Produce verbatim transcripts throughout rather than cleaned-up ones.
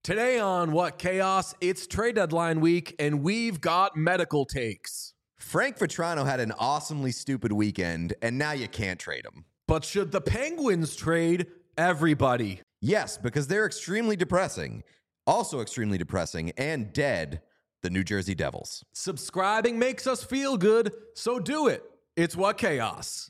Today on What Chaos, it's trade deadline week, and we've got medical takes. Frank Vetrano had an awesomely stupid weekend, and now you can't trade him. But should the Penguins trade everybody? Yes, because they're extremely depressing. Also extremely depressing and dead, the New Jersey Devils. Subscribing makes us feel good, so do it. It's What Chaos.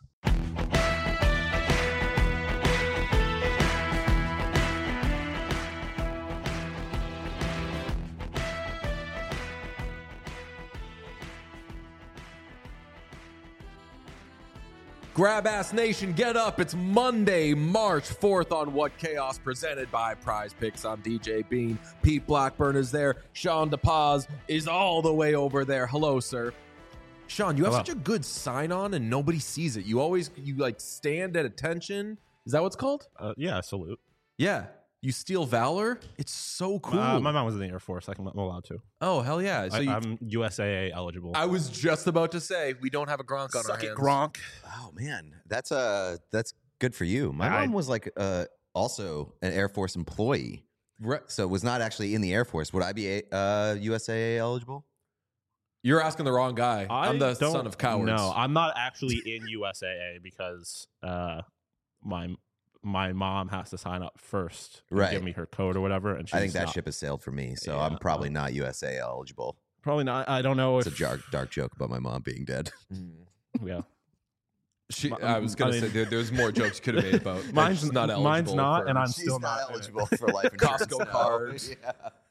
Grab Ass Nation, get up. It's Monday, March fourth on What Chaos, presented by Prize Picks. I'm D J Bean. Pete Blackburn is there. Sean DePaz is all the way over there. Hello, sir. Sean, you have Hello. such a good sign on and nobody sees it. You always, you like stand at attention. Is that what's called? Uh, yeah, salute. Yeah. You steal valor? It's so cool. Uh, my mom was in the Air Force. I can, I'm allowed to. Oh, hell yeah. So I, you, I'm U S A A eligible. I was just about to say, we don't have a Gronk on our Suck hands. it, Gronk. Oh man, that's uh that's good for you. My I- mom was like uh also an Air Force employee, Re- so was not actually in the Air Force. Would I be a, uh U S A A eligible? You're asking the wrong guy. I I'm the don't son of cowards. No, I'm not actually in U S A A because uh, my my mom has to sign up first and Right. give me her code or whatever. And she's I think that not, ship has sailed for me, so Yeah, I'm probably um, not U S A eligible. probably not. I don't know It's if a dark dark joke about my mom being dead. Yeah, She, My- I was going I to mean- say there, there's more jokes you could have made about. but Mine's- she's not eligible. mine's not, for- and I'm She's still not, not eligible for life insurance. Costco no. cards. Yeah.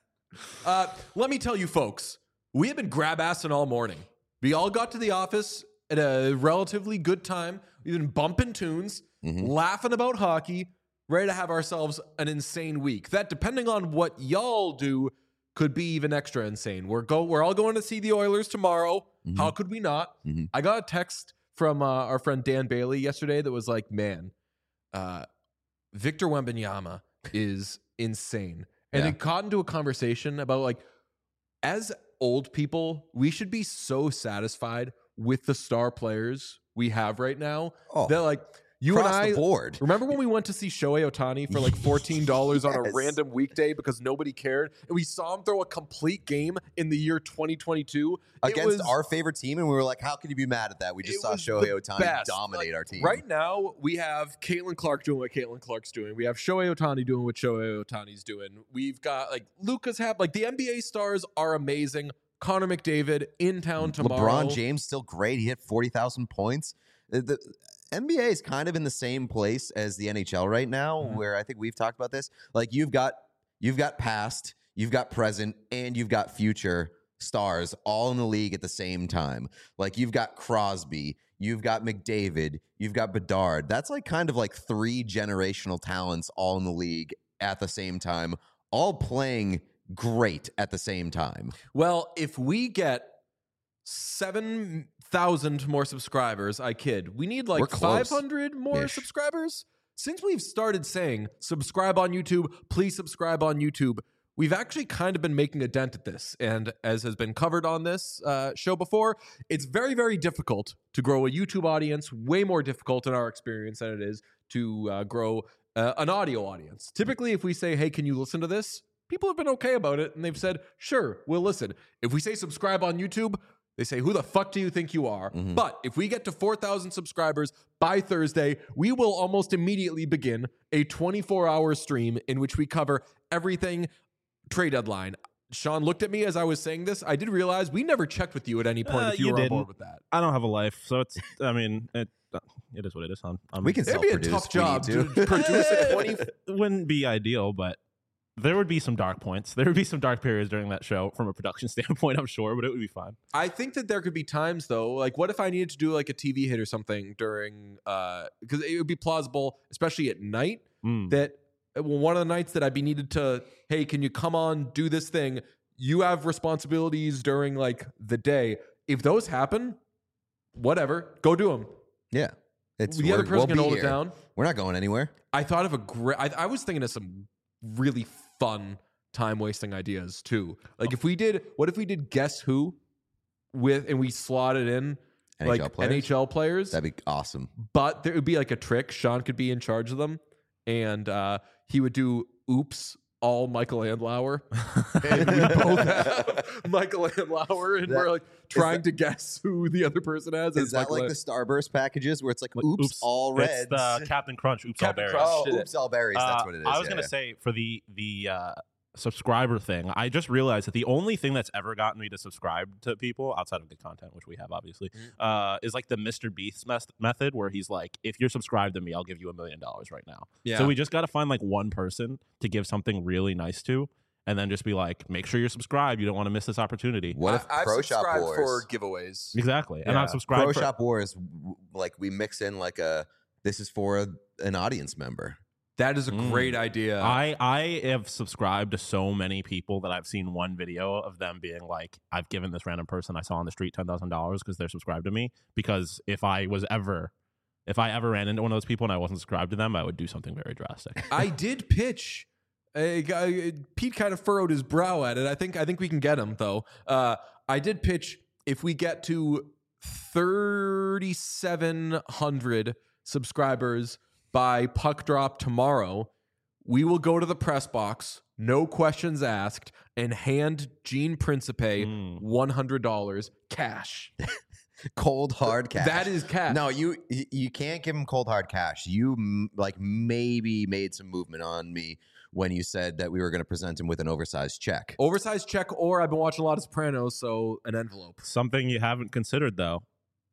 Uh, let me tell you, folks, we have been grab assing all morning. We all got to the office at a relatively good time. We've been bumping tunes, Mhm. laughing about hockey, ready to have ourselves an insane week. That, depending on what y'all do, could be even extra insane. We're go. We're all going to see the Oilers tomorrow. Mhm. How could we not? Mhm. I got a text from uh, our friend Dan Bailey yesterday that was like, "Man, uh, Victor Wembanyama is insane," and Yeah. it caught into a conversation about like, as old people, we should be so satisfied with the star players we have right now. Oh, That like you across and I the board. remember when we went to see Shohei Ohtani for like fourteen dollars on a Yes. random weekday because nobody cared, and we saw him throw a complete game in the year twenty twenty-two It Against was- our favorite team, and we were like, "How could you be mad at that?" We just it saw was Shohei the Ohtani best. dominate Like, our team. Right now, we have Caitlin Clark doing what Caitlin Clark's doing. We have Shohei Ohtani doing what Shohei Ohtani's doing. We've got like Lucas Hap. Like the N B A stars are amazing. Connor McDavid in town tomorrow. LeBron James still great. He hit forty thousand points. The, the N B A is kind of in the same place as the N H L right now, Mhm. where I think we've talked about this. Like you've got you've got past, you've got present, and you've got future stars all in the league at the same time. Like you've got Crosby, you've got McDavid, you've got Bedard. That's like kind of like three generational talents all in the league at the same time, all playing great at the same time. Well, if we get seven thousand more subscribers, I kid, we need We're like close. five hundred more Ish. subscribers. Since we've started saying subscribe on YouTube, please subscribe on YouTube, we've actually kind of been making a dent at this. And as has been covered on this uh, show before, it's very, very difficult to grow a YouTube audience, way more difficult in our experience than it is to uh, grow uh, an audio audience. Typically, if we say, hey, can you listen to this? People have been okay about it, and they've said, sure, we'll listen. If we say subscribe on YouTube, they say, who the fuck do you think you are? Mhm. But if we get to four thousand subscribers by Thursday, we will almost immediately begin a twenty-four hour stream in which we cover everything trade deadline. Sean looked at me as I was saying this. I did realize we never checked with you at any point Uh, if you, you were on didn't. board with that. I don't have a life, so it's. I mean, it uh, it is what it is. I'm, I'm, We can It'd be a self-produce tough if we need job to. to produce a twenty. It wouldn't be ideal, but there would be some dark points. There would be some dark periods during that show from a production standpoint, I'm sure, but it would be fine. I think that there could be times though, like what if I needed to do like a T V hit or something during, uh, because it would be plausible, especially at night, Mm. that well, one of the nights that I'd be needed to, hey, can you come on, do this thing? You have responsibilities during like the day. If those happen, whatever, go do them. Yeah. It's The other we're- person we'll can be hold it here. down. We're not going anywhere. I thought of a great, I, I was thinking of some really fun time wasting ideas too. Like if we did, what if we did Guess Who with, and we slotted in N H L like players? N H L players, That'd be awesome. but there would be like a trick. Sean could be in charge of them, and uh, he would do oops all Michael Andlauer, and we both have Michael Andlauer, and That- we're like trying that- to guess who the other person has. Is as that Michael like An- the Starburst packages where it's like, Like, oops, all reds? It's the Captain Crunch. Oops, Captain all berries. Crunch. oh, did it. oops, all berries. That's Uh, what it is. I was yeah, gonna yeah. say for the the uh, subscriber thing, I just realized that the only thing that's ever gotten me to subscribe to people outside of good content, which we have obviously, Mm-hmm. uh, is like the Mister Beast mes- method, where he's like, if you're subscribed to me, I'll give you a million dollars right now. Yeah. So we just got to find like one person to give something really nice to, and then just be like, make sure you're subscribed. You don't want to miss this opportunity. What if I, I've Pro Shop subscribed Wars? for giveaways. Exactly, and Yeah. I'm subscribed. Pro for- Shop Wars, w- like we mix in like a this is for a, an audience member. That is a Mm. great idea. I I have subscribed to so many people that I've seen one video of them being like, I've given this random person I saw on the street ten thousand dollars because they're subscribed to me. Because if I was ever, if I ever ran into one of those people and I wasn't subscribed to them, I would do something very drastic. I did pitch. A guy, Pete kind of furrowed his brow at it. I think I think we can get him though. Uh, I did pitch if we get to thirty-seven hundred subscribers by puck drop tomorrow, we will go to the press box, no questions asked, and hand Gene Principe Mm. one hundred dollars cash. Cold hard cash. That is cash. No, you you can't give him cold hard cash. You m- like maybe made some movement on me when you said that we were going to present him with an oversized check. Oversized check, or I've been watching a lot of Sopranos, so an envelope. Something you haven't considered though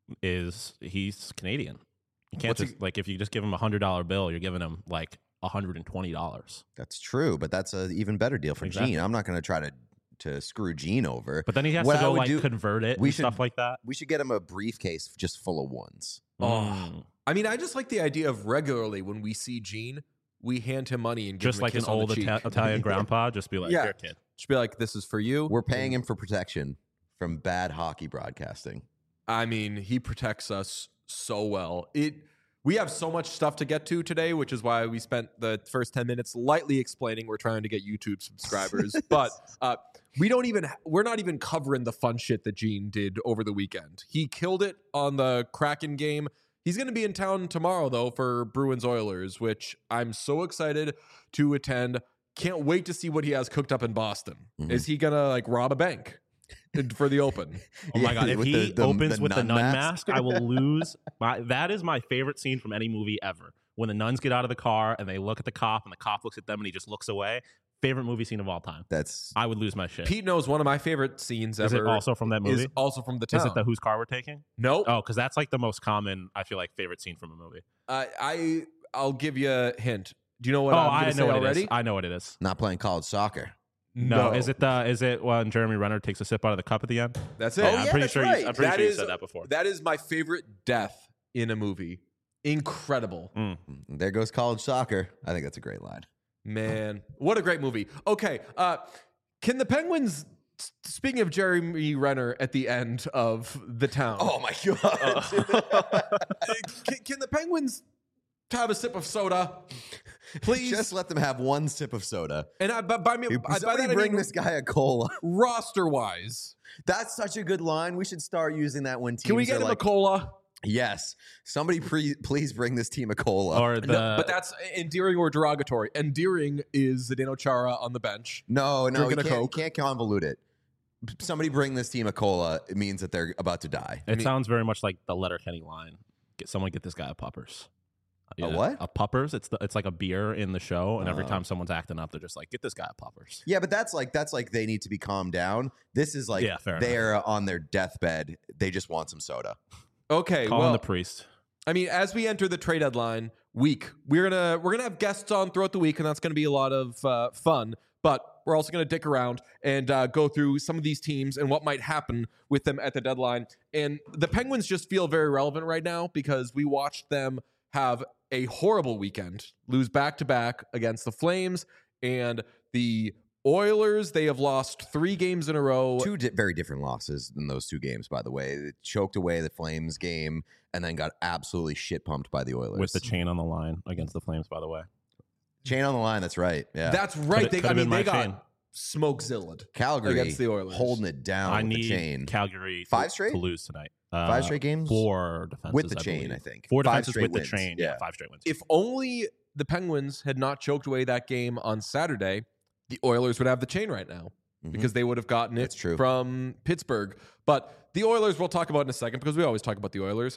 is he's Canadian. You can't What's just like if you just give him a hundred dollar bill, you're giving him like a hundred and twenty dollars. That's true, but that's an even better deal for Exactly. Gene. I'm not going to try to to screw Gene over. But then he has What to I go would like do- convert it we and should- stuff like that. We should get him a briefcase just full of ones. Oh. Mm. I mean, I just like the idea of regularly when we see Gene, we hand him money and give Just him a like an kiss on the old cheek. Ita- Italian grandpa, just be like, Yeah. "Here, kid." Just be like, "This is for you." We're paying him for protection from bad hockey broadcasting. I mean, he protects us so well. It. We have so much stuff to get to today, which is why we spent the first ten minutes lightly explaining we're trying to get YouTube subscribers. But uh, we don't even. We're not even covering the fun shit that Gene did over the weekend. He killed it on the Kraken game. He's going to be in town tomorrow, though, for Bruins Oilers, which I'm so excited to attend. Can't wait to see what he has cooked up in Boston. Mhm. Is he going to like rob a bank for the Open? Oh my Yeah, god! If with he the- the- opens the with the nun nun mask. mask, I will lose. My that is my favorite scene from any movie ever. When the nuns get out of the car and they look at the cop, and the cop looks at them and he just looks away. Favorite movie scene of all time. That's I would lose my shit. Pete knows one of my favorite scenes is ever. it also from that movie? Is also from the town. Is it the whose car we're taking? Nope. Oh, because that's like the most common. I feel like favorite scene from a movie. Uh, I I'll give you a hint. Do you know what oh, I'm going I to know say what already? it is. I know what it is. not playing college soccer. No, is it the is it when Jeremy Renner takes a sip out of the cup at the end? That's it. Oh, Yeah, I'm yeah, pretty that's sure. right. You, I'm pretty That sure you is- said that before. That is my favorite death in a movie. Incredible. Mm. There goes college soccer. I think that's a great line. Man, what a great movie. Okay, uh, can the Penguins, s- speaking of Jeremy Renner at the end of The Town, Oh my god! uh, can, can the Penguins have a sip of soda, please? Just let them have one sip of soda. and I, by, by, me, I, by Somebody that I bring mean this guy a cola. roster-wise. That's such a good line. We should start using that when teams Can we are get him like, a cola? yes, somebody pre- please bring this team a cola. Or the No, but that's endearing or derogatory. Endearing is Zdeno Chara on the bench. no, no, you drinking a can't, you Coke. can't convolute it. Somebody bring this team a cola. It means that they're about to die. It mean- sounds very much like the Letterkenny line. Get someone get this guy a puppers. A what? A puppers. It's the, it's like a beer in the show, and every Oh. time someone's acting up, they're just like, "Get this guy a puppers." Yeah, but that's like that's like they need to be calmed down. This is like Yeah, fair they're on their deathbed. They just want some soda. Okay, Calling well, the priest. I mean, as we enter the trade deadline week, we're gonna we're gonna have guests on throughout the week, and that's gonna be a lot of uh, fun. But we're also gonna dick around and uh, go through some of these teams and what might happen with them at the deadline. And the Penguins just feel very relevant right now because we watched them have a horrible weekend, lose back to back against the Flames and the Oilers. They have lost three games in a row. Two di- very different losses in those two games, by the way. They choked away the Flames game and then got absolutely shit pumped by the Oilers. With the chain on the line against the Flames, by the way. chain on the line, that's right. Yeah. That's right. Could've- They, I could've mean, been they my got chain. smoke zilled Calgary against the Oilers. holding it down I with need the chain. Calgary Five to- straight? to lose tonight. Uh, Five straight games? Four defenses With the I chain, believe. I think. Four Five defenses straight with wins. the chain. Yeah. Yeah. five straight wins. If only the Penguins had not choked away that game on Saturday, the Oilers would have the chain right now Mhm. because they would have gotten it That's true. from Pittsburgh. But the Oilers, we'll talk about in a second because we always talk about the Oilers,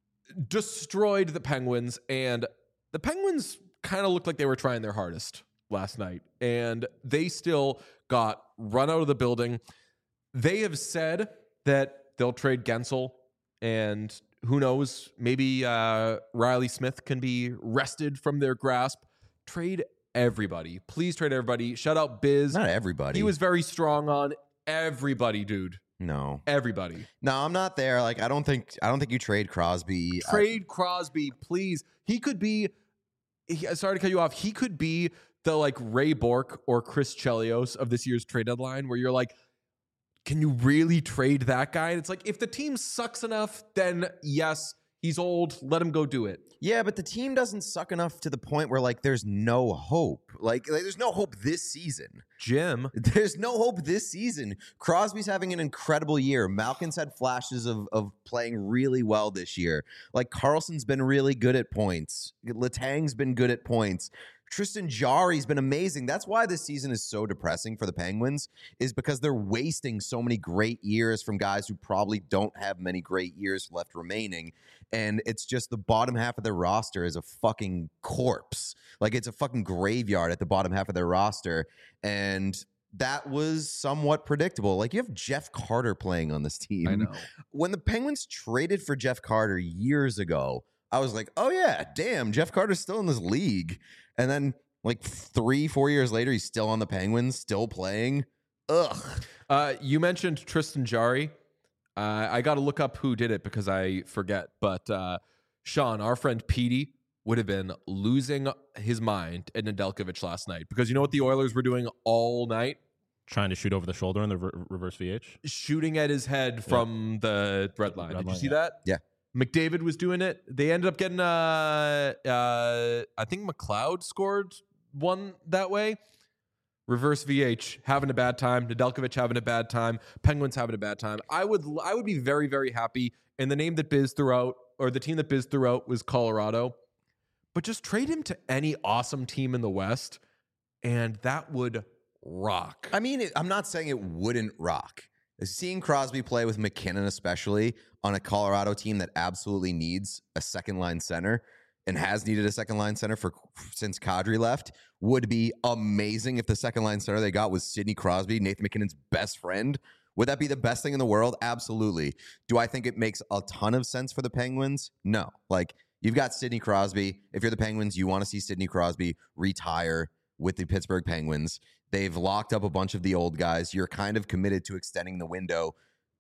destroyed the Penguins. And the Penguins kind of looked like they were trying their hardest last night. And they still got run out of the building. They have said that they'll trade Gensel, and who knows, maybe uh, Riley Smith can be wrested from their grasp. Trade everybody. Please trade everybody. Shout out Biz. Not everybody. He was very strong on everybody, dude. no, Everybody. no. I'm not there. Like I don't think. I don't think you trade Crosby. I- Trade Crosby, please. He could be, he, sorry to cut you off, he could be the like Ray Bork or Chris Chelios of this year's trade deadline where you're like, can you really trade that guy? And it's like, if the team sucks enough, then yes, he's old. Let him go do it. Yeah, but the team doesn't suck enough to the point where like there's no hope. Like, like there's no hope this season. Jim. There's no hope this season. Crosby's having an incredible year. Malkin's had flashes of of playing really well this year. Like Carlson's been really good at points. Letang's been good at points. Tristan Jarry's been amazing. That's why this season is so depressing for the Penguins, is because they're wasting so many great years from guys who probably don't have many great years left remaining. And it's just the bottom half of their roster is a fucking corpse. Like it's a fucking graveyard at the bottom half of their roster. And that was somewhat predictable. Like you have Jeff Carter playing on this team. I know. When the Penguins traded for Jeff Carter years ago, I was like, oh yeah, damn, Jeff Carter's still in this league. And then like three, four years later, he's still on the Penguins, still playing. Ugh. Uh, you mentioned Tristan Jarry. Uh, I got to look up who did it because I forget. But uh, Sean, our friend Petey, would have been losing his mind at Nedeljkovic last night because you know what the Oilers were doing all night? Trying to shoot over the shoulder in the re- reverse V H. Shooting at his head from the red line. Red Did you line, see yeah. that? Yeah. McDavid was doing it. They ended up getting, uh, uh, I think McLeod scored one that way. Reverse V H having a bad time. Nedeljkovic having a bad time. Penguins having a bad time. I would, I would be very, very happy. And the name that Biz threw out, or the team that Biz threw out, was Colorado. But just trade him to any awesome team in the West, and that would rock. I mean, it, I'm not saying it wouldn't rock. Seeing Crosby play with McKinnon, especially on a Colorado team that absolutely needs a second line center and has needed a second line center for since Kadri left, would be amazing if the second line center they got was Sidney Crosby, Nathan McKinnon's best friend. Would that be the best thing in the world? Absolutely. Do I think it makes a ton of sense for the Penguins? No. Like, you've got Sidney Crosby. If you're the Penguins, you want to see Sidney Crosby retire with the Pittsburgh Penguins. They've locked up a bunch of the old guys. You're kind of committed to extending the window.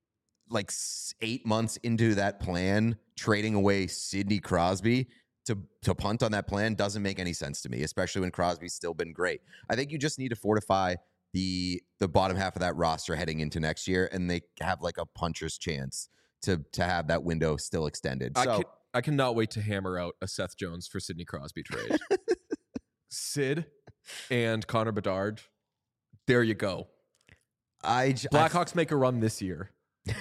Like eight months into that plan, trading away Sidney Crosby to, to punt on that plan doesn't make any sense to me, especially when Crosby's still been great. I think you just need to fortify the the bottom half of that roster heading into next year, and they have like a puncher's chance to to have that window still extended. I, So can, I cannot wait to hammer out a Seth Jones for Sidney Crosby trade. Sid and Connor Bedard. There you go. I j- I Blackhawks make a run this year.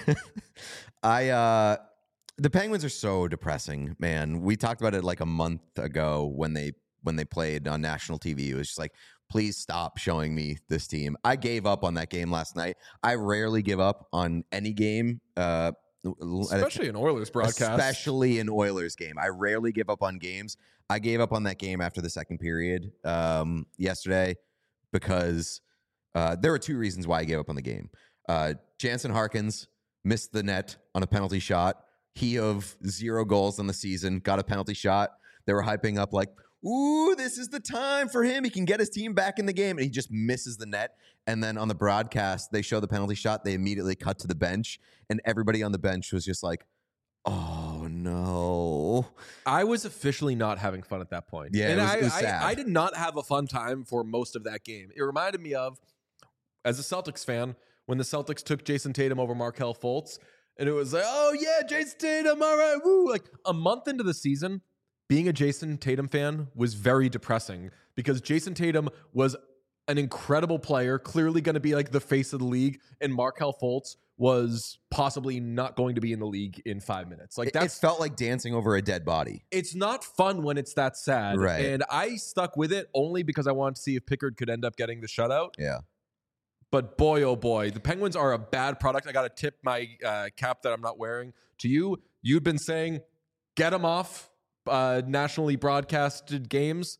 I uh the Penguins are so depressing, man. We talked about it like a month ago when they when they played on national T V. It was just like, please stop showing me this team. I gave up on that game last night. I rarely give up on any game, uh Especially an Oilers broadcast. especially an Oilers game. I rarely give up on games. I gave up on that game after the second period um yesterday because uh there were two reasons why I gave up on the game. Uh Jansen Harkins missed the net on a penalty shot. He of zero goals in the season got a penalty shot. They were hyping up like, ooh, this is the time for him. He can get his team back in the game. And he just misses the net. And then on the broadcast, they show the penalty shot. They immediately cut to the bench. And everybody on the bench was just like, oh, no. I was officially not having fun at that point. Yeah, and it was- I, it was I, sad. I did not have a fun time for most of that game. It reminded me of, as a Celtics fan, when the Celtics took Jason Tatum over Markelle Fultz. And it was like, oh, yeah, Jason Tatum, all right, woo. Like a month into the season, being a Jason Tatum fan was very depressing because Jason Tatum was an incredible player, clearly going to be like the face of the league, and Markelle Fultz was possibly not going to be in the league in five minutes. Like It, that's it felt like dancing over a dead body. it's not fun when it's that sad. Right. And I stuck with it only because I wanted to see if Pickard could end up getting the shutout. Yeah. But boy, oh boy, the Penguins are a bad product. I got to tip my uh, cap that I'm not wearing to you. You've been saying, get them off uh, nationally broadcasted games.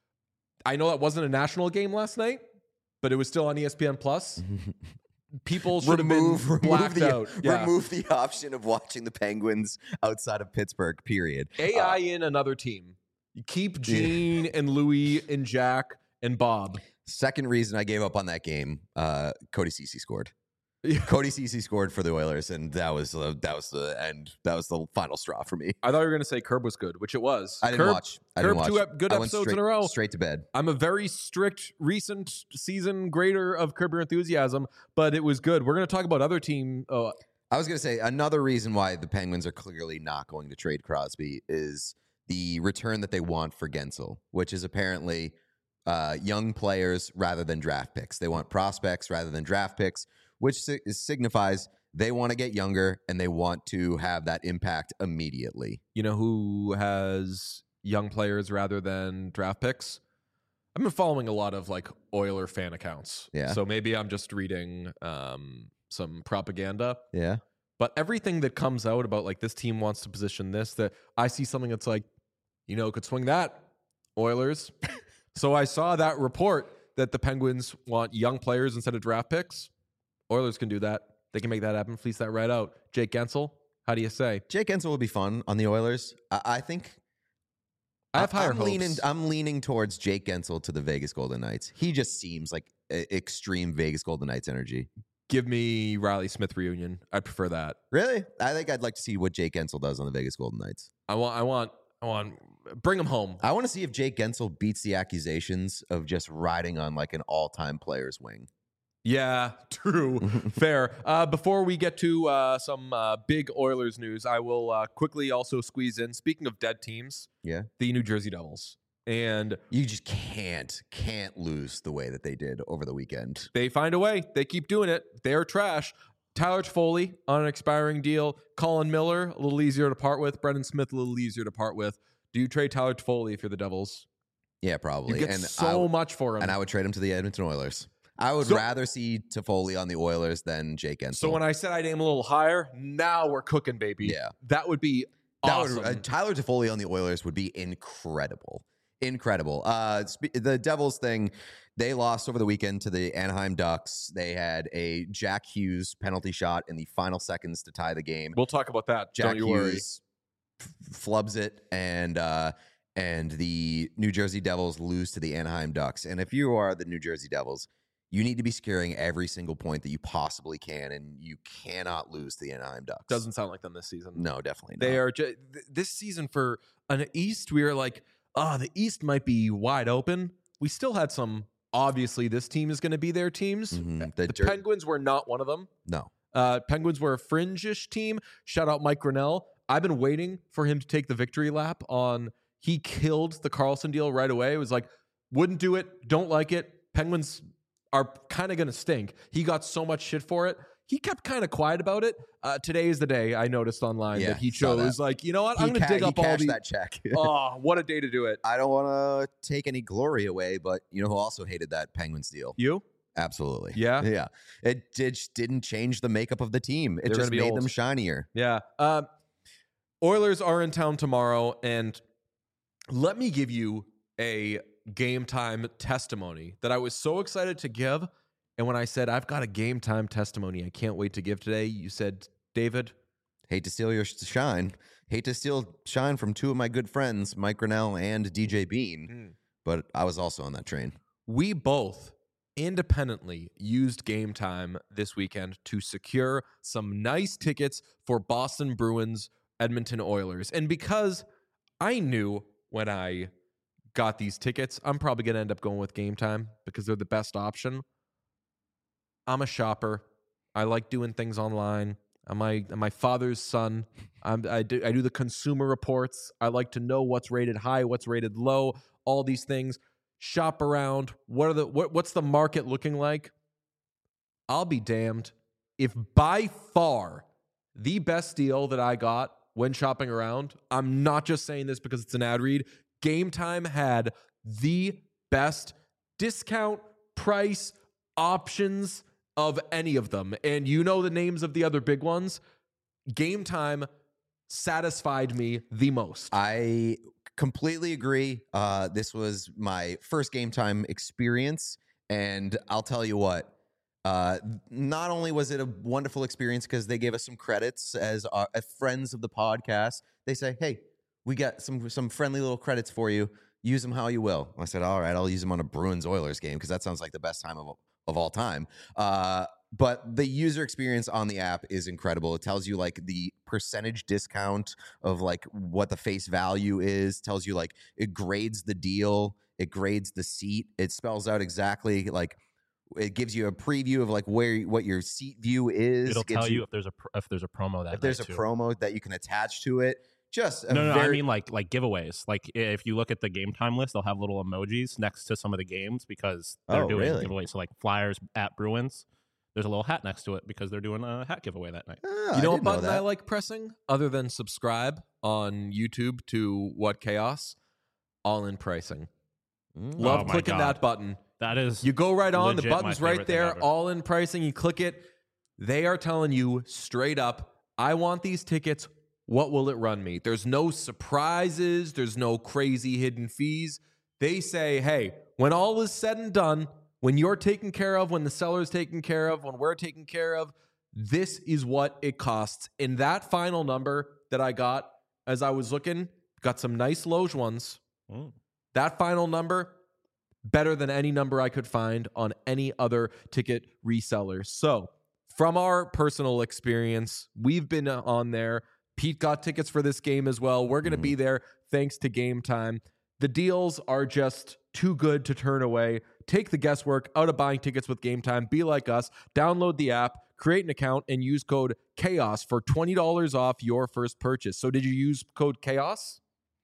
I know that wasn't a national game last night, but it was still on E S P N Plus. People should remove, have been blacked the, out. Yeah. Remove the option of watching the Penguins outside of Pittsburgh, period. A I uh, in another team. You keep Gene yeah. and Louis and Jack and Bob. Second reason I gave up on that game, uh, Cody Ceci scored. Yeah. Cody Ceci scored for the Oilers, and that was uh, that was the end. That was the final straw for me. I thought you were going to say Curb was good, which it was. I didn't Curb, watch. I Curb didn't watch. two ep- good I episodes straight, in a row. Straight to bed. I'm a very strict recent season grader of Curb Your Enthusiasm, but it was good. We're going to talk about other team. Oh, I was going to say another reason why the Penguins are clearly not going to trade Crosby is the return that they want for Gensel, which is apparently uh, young players rather than draft picks. They want prospects rather than draft picks, which si- signifies they want to get younger and they want to have that impact immediately. You know who has young players rather than draft picks? I've been following a lot of like Oiler fan accounts. Yeah. So maybe I'm just reading um, some propaganda. Yeah. But everything that comes out about like this team wants to position this, that I see something that's like, you know, could swing that, Oilers. So I saw that report that the Penguins want young players instead of draft picks. Oilers can do that. They can make that happen. Fleece that right out. Jake Gensel, how do you say? Jake Gensel would be fun on the Oilers. I, I think. I have higher I'm hopes. Leaning, I'm leaning towards Jake Gensel to the Vegas Golden Knights. He just seems like a, extreme Vegas Golden Knights energy. Give me Riley Smith reunion. I prefer that. Really? I think I'd like to see what Jake Gensel does on the Vegas Golden Knights. I want. I want. I want. Bring him home. I want to see if Jake Gensel beats the accusations of just riding on like an all-time player's wing. Yeah, true. Fair. Uh, before we get to uh, some uh, big Oilers news, I will uh, quickly also squeeze in, speaking of dead teams, yeah, the New Jersey Devils. And you just can't, can't lose the way that they did over the weekend. They find a way. They keep doing it. They're trash. Tyler Toffoli on an expiring deal. Colin Miller, a little easier to part with. Brendan Smith, a little easier to part with. Do you trade Tyler Toffoli if you're the Devils? Yeah, probably. You get and so would, much for him. And I would trade him to the Edmonton Oilers. I would so, rather see Toffoli on the Oilers than Jake Gensel. So when I said I'd aim a little higher, now we're cooking, baby. Yeah. That would be that awesome. Would, uh, Tyler Toffoli on the Oilers would be incredible. Incredible. Uh, sp- the Devils thing, they lost over the weekend to the Anaheim Ducks. They had a Jack Hughes penalty shot in the final seconds to tie the game. We'll talk about that. Jack Don't you Hughes worry. F- flubs it, and uh, and the New Jersey Devils lose to the Anaheim Ducks. And if you are the New Jersey Devils, you need to be scoring every single point that you possibly can, and you cannot lose to the Anaheim Ducks. Doesn't sound like them this season. No, definitely not. They are ju- th- this season for an East. We were like, oh, the East might be wide open. We still had some. Obviously, this team is going to be their teams. Mm-hmm. The, the Jer- Penguins were not one of them. No. Uh, Penguins were a fringe-ish team. Shout out Mike Grinnell. I've been waiting for him to take the victory lap on. He killed the Carlson deal right away. It was like, wouldn't do it. Don't like it. Penguins are kind of going to stink. He got so much shit for it. He kept kind of quiet about it. Uh, today is the day I noticed online yeah, that he chose, that. like, you know what? He I'm going to ca- dig up he all the that check. Oh, what a day to do it. I don't want to take any glory away, but you know who also hated that Penguins deal? You? Absolutely. Yeah? Yeah. It, it just didn't change the makeup of the team. It They're just gonna be made old. them shinier. Yeah. Uh, Oilers are in town tomorrow, and let me give you a game time testimony that I was so excited to give. And when I said, I've got a game time testimony I can't wait to give today, you said, David, hate to steal your shine. Hate to steal shine from two of my good friends, Mike Grinnell and D J Bean. Mm. But I was also on that train. We both independently used Game Time this weekend to secure some nice tickets for Boston Bruins, Edmonton Oilers. And because I knew when I got these tickets, I'm probably going to end up going with Game Time because they're the best option. I'm a shopper. I like doing things online. I'm my, I'm my father's son. I'm, I, do, I do the consumer reports. I like to know what's rated high, what's rated low, all these things. shop around. What are the what, what's the market looking like? I'll be damned if by far the best deal that I got when shopping around, I'm not just saying this because it's an ad read, Game Time had the best discount price options of any of them. And you know the names of the other big ones. Game Time satisfied me the most. I completely agree. Uh, this was my first Game Time experience, and I'll tell you what. Uh, not only was it a wonderful experience because they gave us some credits as, our, as friends of the podcast. They say, "Hey, we got some some friendly little credits for you. Use them how you will." I said, "All right, I'll use them on a Bruins Oilers game because that sounds like the best time of of all time." Uh, But the user experience on the app is incredible. It tells you like the percentage discount of like what the face value is, tells you like it grades the deal, it grades the seat. It spells out exactly like it gives you a preview of like where what your seat view is. It'll Gives tell you if there's a pr- if there's a promo that if there's a night, too. promo that you can attach to it. Just a No, no, very, I mean like like giveaways. Like if you look at the Game Time list, they'll have little emojis next to some of the games because they're Oh, doing really? giveaways. So like Flyers at Bruins, there's a little hat next to it because they're doing a hat giveaway that night. Ah, You know I what didn't know button I that. like pressing other than subscribe on YouTube to What Chaos? All in pricing. Mm. Love Oh my clicking God. that button. That is You go right on, the legit my button's right favorite thing there, ever. all in pricing. You click it. They are telling you straight up, I want these tickets. What will it run me? There's no surprises. There's no crazy hidden fees. They say, hey, when all is said and done, when you're taken care of, when the seller's taken care of, when we're taken care of, this is what it costs. And that final number that I got as I was looking, got some nice Loge ones. Mm. That final number, better than any number I could find on any other ticket reseller. So, from our personal experience, we've been on there. Pete got tickets for this game as well. We're going to Mhm. be there thanks to Game Time. The deals are just too good to turn away. Take the guesswork out of buying tickets with Game Time. Be like us. Download the app, create an account, and use code CHAOS for twenty dollars off your first purchase. So, did you use code CHAOS?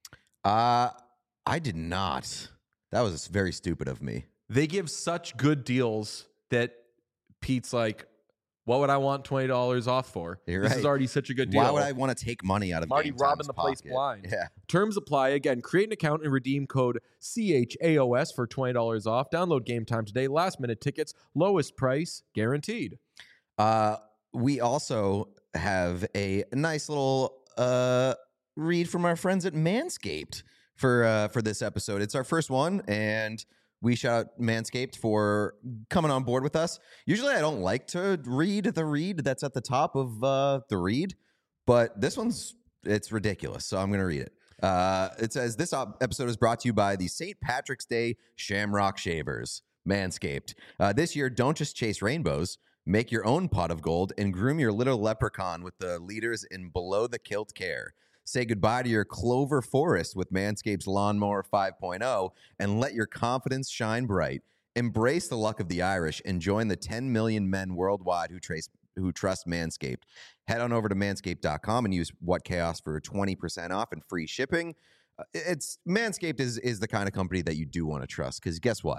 Uh, I did not. That was very stupid of me. They give such good deals that Pete's like, what would I want twenty dollars off for? You're this right. is already such a good deal. Why would I want to take money out of I'm already Game robbing Time's the place pocket? blind. Yeah. Terms apply. Again, create an account and redeem code C H A O S for twenty dollars off. Download Game Time today. Last minute tickets, lowest price guaranteed. Uh, we also have a nice little uh, read from our friends at Manscaped for uh, for this episode. It's our first one, and we shout out Manscaped for coming on board with us. Usually I don't like to read the read that's at the top of uh, the read, but this one's, it's ridiculous, so I'm going to read it. Uh, it says, this op- episode is brought to you by the Saint Patrick's Day Shamrock Shavers, Manscaped. Uh, this year, don't just chase rainbows. Make your own pot of gold and groom your little leprechaun with the leaders in below-the-kilt care. Say goodbye to your clover forest with Manscaped's Lawnmower five point oh and let your confidence shine bright. Embrace the luck of the Irish and join the ten million men worldwide who, trace, who trust Manscaped. Head on over to manscaped dot com and use WhatChaos for twenty percent off and free shipping. Uh, it's Manscaped is, is the kind of company that you do want to trust because guess what?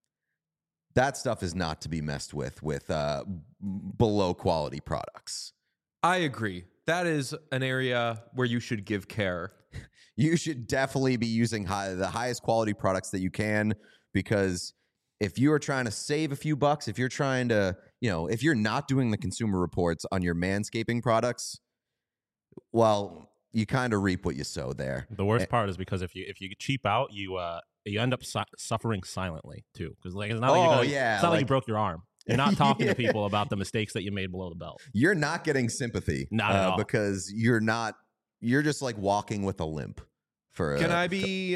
That stuff is not to be messed with with uh, below quality products. I agree. That is an area where you should give care. You should definitely be using high, the highest quality products that you can, because if you are trying to save a few bucks, if you're trying to, you know, if you're not doing the consumer reports on your manscaping products, well, you kind of reap what you sow there. The worst part is because if you if you cheap out, you uh you end up su- suffering silently too. Because like it's not like Oh, you're gonna, yeah, it's not like, you like- broke your arm. You're not talking Yeah. to people about the mistakes that you made below the belt. You're not getting sympathy, Not at uh, all. because you're not. You're just like walking with a limp. For Can uh, I be,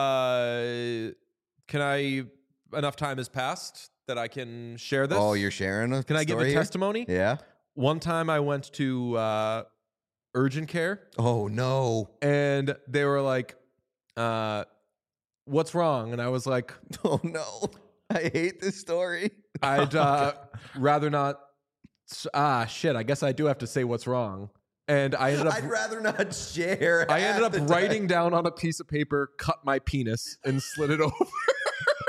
uh, can I, enough time has passed that I can share this? Oh, you're sharing a Can I give story a here? testimony? Yeah. One time I went to uh, urgent care Oh no. and they were like, uh, what's wrong? And I was like, Oh no. I hate this story. I'd uh, rather not. Ah, shit. I guess I do have to say what's wrong. And I ended up. I'd rather not share. I ended half up the time. writing down on a piece of paper, cut my penis, and slid it over.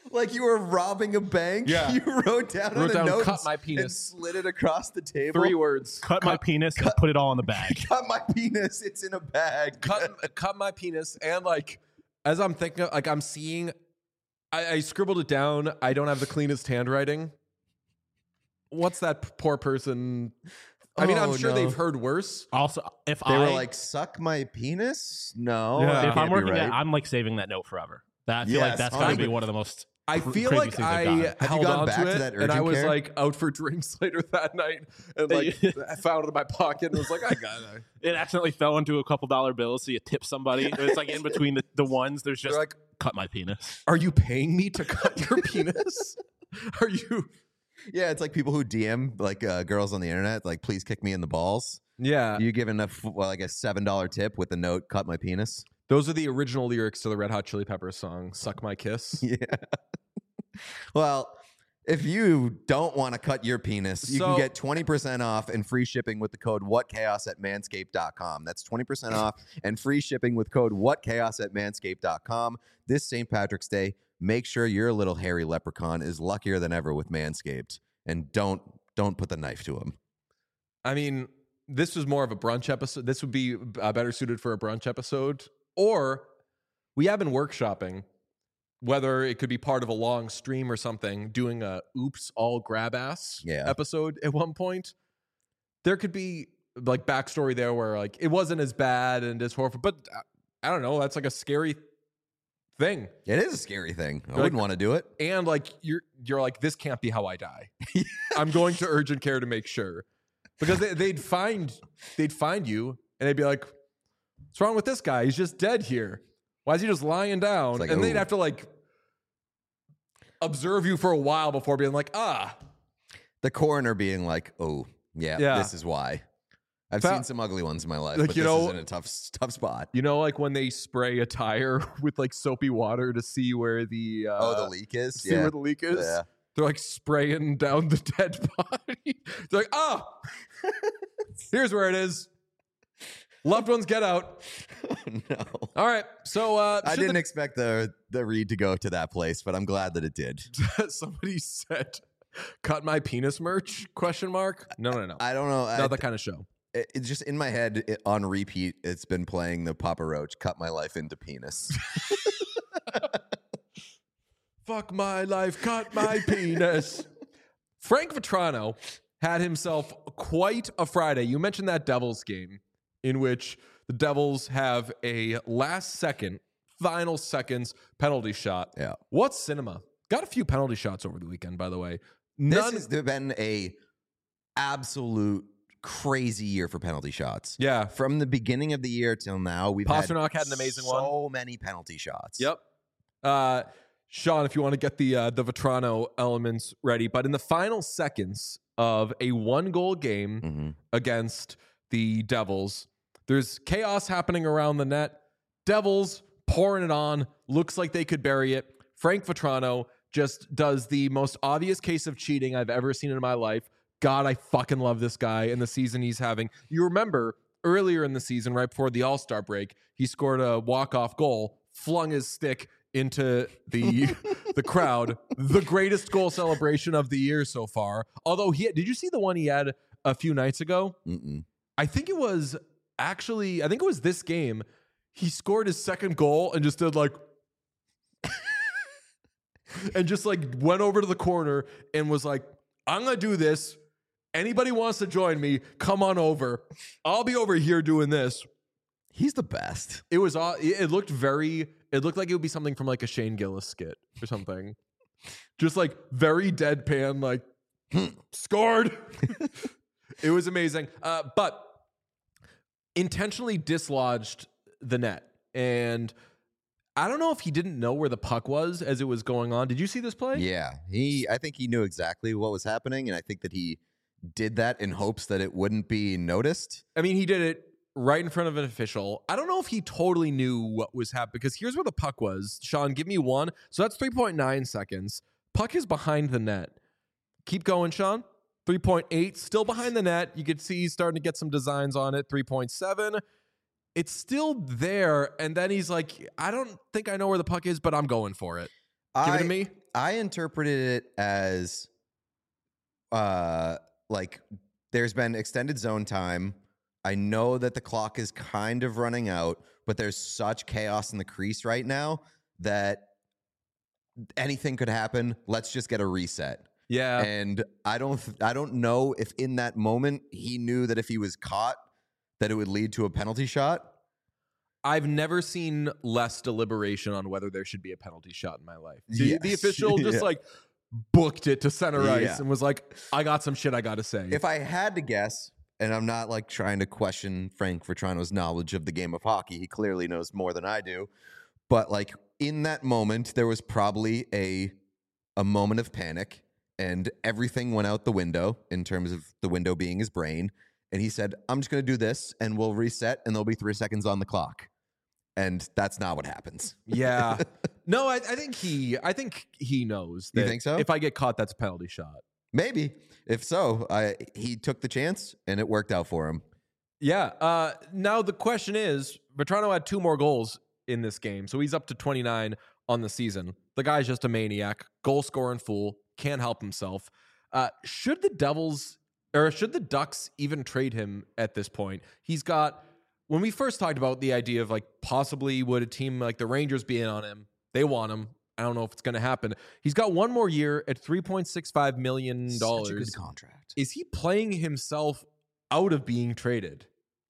Like you were robbing a bank. Yeah. You wrote down Wrote on down, a note "Cut my and penis." slid it across the table. Three words. Cut, my penis and put it all in the bag. Cut my penis. It's in a bag. cut cut my penis. And like as I'm thinking, like I'm seeing, I, I scribbled it down. I don't have the cleanest handwriting. What's that p- poor person? I mean, I'm Oh, sure no. they've heard worse. Also, if They I were like, "Suck my penis." No, Yeah. that if I'm can't be working, right. at, I'm like saving that note forever. That I feel like Yes, that's got to be one hundred one of the most. I cr- feel craziest like things I've I done. Have you held gone on back to to it, that and I urgent was care? like out for drinks later that night, and like I found it in my pocket and was like, I got it. It accidentally fell into a couple dollar bills, so you tip somebody. It's like in between the, the ones. There's just They're like, cut my penis. are you paying me to cut your penis? Are you? Yeah, it's like people who D M like uh, girls on the internet, like, "Please kick me in the balls." Yeah, You give enough, well, like a seven dollar tip with a note, "Cut my penis." those are the original lyrics to the Red Hot Chili Peppers song "Suck My Kiss." Yeah. Well, if you don't want to cut your penis, you So- can get twenty percent off and free shipping with the code WhatChaos at manscaped dot com. That's twenty percent off and free shipping with code WhatChaos at manscaped dot com. This Saint Patrick's Day, make sure your little hairy leprechaun is luckier than ever with Manscaped, and don't don't put the knife to him. I mean, this was more of a brunch episode. This would be uh, better suited for a brunch episode, or we have been workshopping whether it could be part of a long stream or something, doing a oops all grab ass Yeah. episode at one point. There could be like backstory there where like it wasn't as bad and as horrible, but uh, I don't know. That's like a scary thing. It is a scary thing. I Like- wouldn't want to do it. And like you're you're like, this can't be how I die. I'm going to urgent care to make sure. Because they, they'd find they'd find you and they'd be like, what's wrong with this guy? He's just dead here. Why is he just lying down? It's like, and they'd ooh. have to like observe you for a while before being like, ah. The coroner being like, "Oh, yeah, Yeah. this is why." I've Fa- seen some ugly ones in my life, Like, but you this know- is in a tough tough spot. You know, like when they spray a tire with like soapy water to see where the uh, Oh, the leak is? see Yeah. where the leak is. Yeah. They're like spraying down the dead body. They're like, ah, here's where it is. Loved ones get out. No. All right. So uh, I should didn't expect the the read to go to that place, but I'm glad that it did. the- somebody said, "Cut my penis merch?" Question mark. No, no, no. I don't know. I, Not that kind of show. it- it's just in my head it, on repeat. It's been playing the Papa Roach "Cut My Life into Penis." Fuck my life. Cut my penis. Frank Vetrano had himself quite a Friday. You mentioned that Devils game in which the Devils have a last second, final seconds penalty shot. Yeah. What cinema? Got a few penalty shots over the weekend, by the way. This None. has been a absolute crazy year for penalty shots. yeah. From the beginning of the year till now, we've Pasternak had, had an amazing so one. So many penalty shots. Yep. Uh, Sean, if you want to get the uh, the Vetrano elements ready, but in the final seconds of a one goal game Mhm. against the Devils, there's chaos happening around the net. Devils pouring it on, looks like they could bury it. Frank Vetrano just does the most obvious case of cheating I've ever seen in my life. God, I fucking love this guy and the season he's having. You remember earlier in the season, right before the All-Star break, he scored a walk-off goal, flung his stick into the the crowd. The greatest goal celebration of the year so far. Although he did you see the one he had a few nights ago? Mm-mm. I think it was actually, I think it was this game. He scored his second goal and just did like and just like went over to the corner and was like, I'm gonna do this. Anybody wants to join me, come on over. I'll be over here doing this. He's the best. It was all it looked very it looked like it would be something from like a Shane Gillis skit or something. Just like very deadpan, like scored. It was amazing. Uh, but intentionally dislodged the net. And I don't know if he didn't know where the puck was as it was going on. Did you see this play? Yeah. He I think he knew exactly what was happening, and I think that he did that in hopes that it wouldn't be noticed. I mean, he did it right in front of an official. I don't know if he totally knew what was happening because here's where the puck was. Sean, give me one. So that's three point nine seconds. Puck is behind the net. Keep going, Sean. three point eight, still behind the net. You could see he's starting to get some designs on it. three point seven. It's still there. And then he's like, I don't think I know where the puck is, but I'm going for it. Give I, it to me. I interpreted it as uh like there's been extended zone time. I know that the clock is kind of running out, but there's such chaos in the crease right now that anything could happen. Let's just get a reset. Yeah. And I don't I don't know if in that moment he knew that if he was caught that it would lead to a penalty shot. I've never seen less deliberation on whether there should be a penalty shot in my life. The, Yes. the official just Yeah. like booked it to center ice Yeah. and was like, I got some shit I got to say. If I had to guess, and I'm not like trying to question Frank Vetrano's knowledge of the game of hockey, he clearly knows more than I do. But like in that moment, there was probably a a moment of panic, and everything went out the window in terms of the window being his brain. And he said, I'm just going to do this, and we'll reset, and there'll be three seconds on the clock. And that's not what happens. yeah. No, I, I think he I think he knows that You think so? if I get caught, that's a penalty shot. Maybe. If so, I, he took the chance, and it worked out for him. Yeah. Uh, now the question is, Vetrano had two more goals in this game, so he's up to twenty-nine on the season. The guy's just a maniac, goal scoring fool, can't help himself. Uh, should the Devils or should the Ducks even trade him at this point? He's got, when we first talked about the idea of like possibly would a team like the Rangers be in on him? They want him. I don't know if it's going to happen. He's got one more year at three point six five million dollars. Such a good contract. Is he playing himself out of being traded?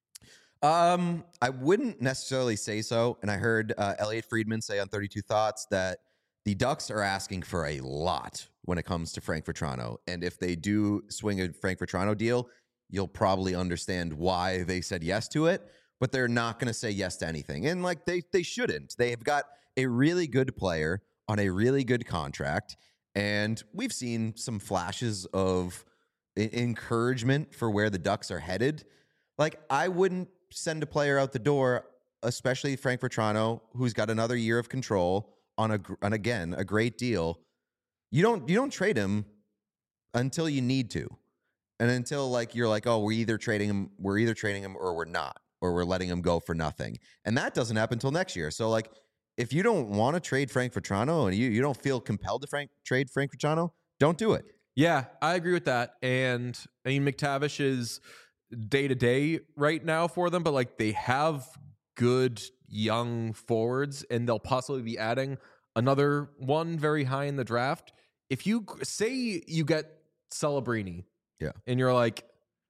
Um, I wouldn't necessarily say so. And I heard uh, Elliot Friedman say on thirty-two Thoughts that the Ducks are asking for a lot when it comes to Frank Vetrano. And if they do swing a Frank Vetrano deal, you'll probably understand why they said yes to it. But they're not going to say yes to anything. And like they they shouldn't. They've got a really good player on a really good contract. And we've seen some flashes of I- encouragement for where the Ducks are headed. Like, I wouldn't send a player out the door, especially Frank Vetrano, who's got another year of control on a gr- on again a great deal. You don't you don't trade him until you need to, and until like you're like, oh, we're either trading him, we're either trading him, or we're not, or we're letting him go for nothing, and that doesn't happen until next year. So like, if you don't want to trade Frank Vetrano and you you don't feel compelled to Frank trade Frank Vetrano, don't do it. Yeah, I agree with that. And I mean, McTavish is day to day right now for them, but like they have good young forwards, and they'll possibly be adding another one very high in the draft. If you say you get Celebrini, Yeah. and you're like,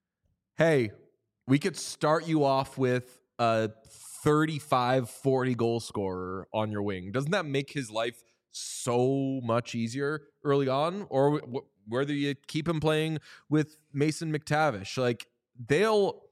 hey, we could start you off with a thirty-five, forty goal scorer on your wing, doesn't that make his life so much easier early on? Or w- whether you keep him playing with Mason McTavish, like they'll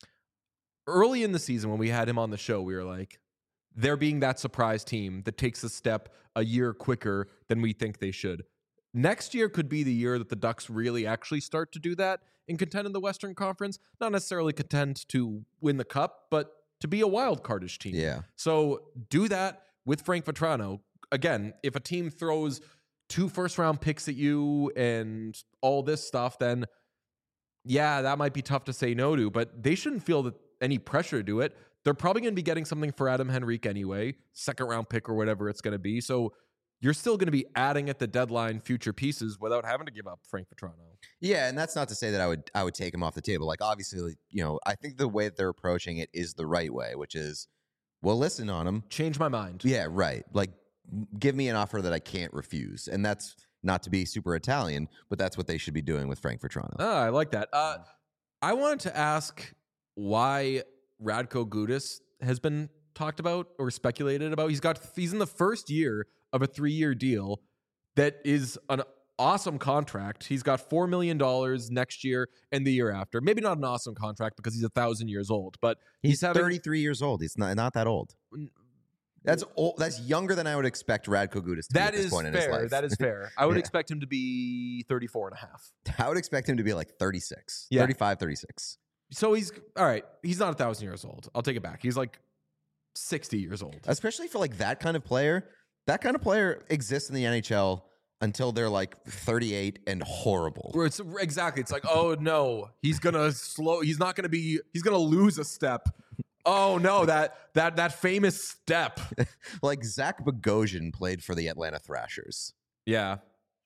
early in the season when we had him on the show, we were like, they're being that surprise team that takes a step a year quicker than we think they should. Next year could be the year that the Ducks really actually start to do that and contend in the Western Conference. Not necessarily contend to win the cup, but to be a wild cardish team. Yeah. So do that with Frank Vetrano. Again, if a team throws two first round picks at you and all this stuff, then yeah, that might be tough to say no to, but they shouldn't feel that any pressure to do it. They're probably going to be getting something for Adam Henrique anyway, second round pick or whatever it's going to be. So you're still going to be adding at the deadline future pieces without having to give up Frank Vetrano. Yeah, and that's not to say that I would I would take him off the table. Like, obviously, you know, I think the way that they're approaching it is the right way, which is, we'll listen on him. Change my mind. Yeah, right. Like, give me an offer that I can't refuse. And that's not to be super Italian, but that's what they should be doing with Frank Vetrano. Oh, I like that. Uh, I wanted to ask why Radko Gudas has been talked about or speculated about. He's got he's in the first year of a three-year deal that is an awesome contract. He's got four million dollars next year and the year after. Maybe not an awesome contract because he's a thousand years old, but he's, He's having thirty-three years old. He's not, not that old. That's old. That's younger than I would expect Radko Gudas to be That at this is point in his fair. life. That is fair. I would Yeah. expect him to be thirty-four and a half. I would expect him to be like thirty-six, Yeah. thirty-five, thirty-six. So he's all right. He's not a thousand years old. I'll take it back. He's like sixty years old. Especially for like that kind of player. That kind of player exists in the N H L until they're like thirty-eight and horrible. Where it's exactly, it's like, oh no, he's gonna slow. He's not gonna be. He's gonna lose a step. Oh no, that that that famous step. Like Zach Bogosian played for the Atlanta Thrashers. Yeah,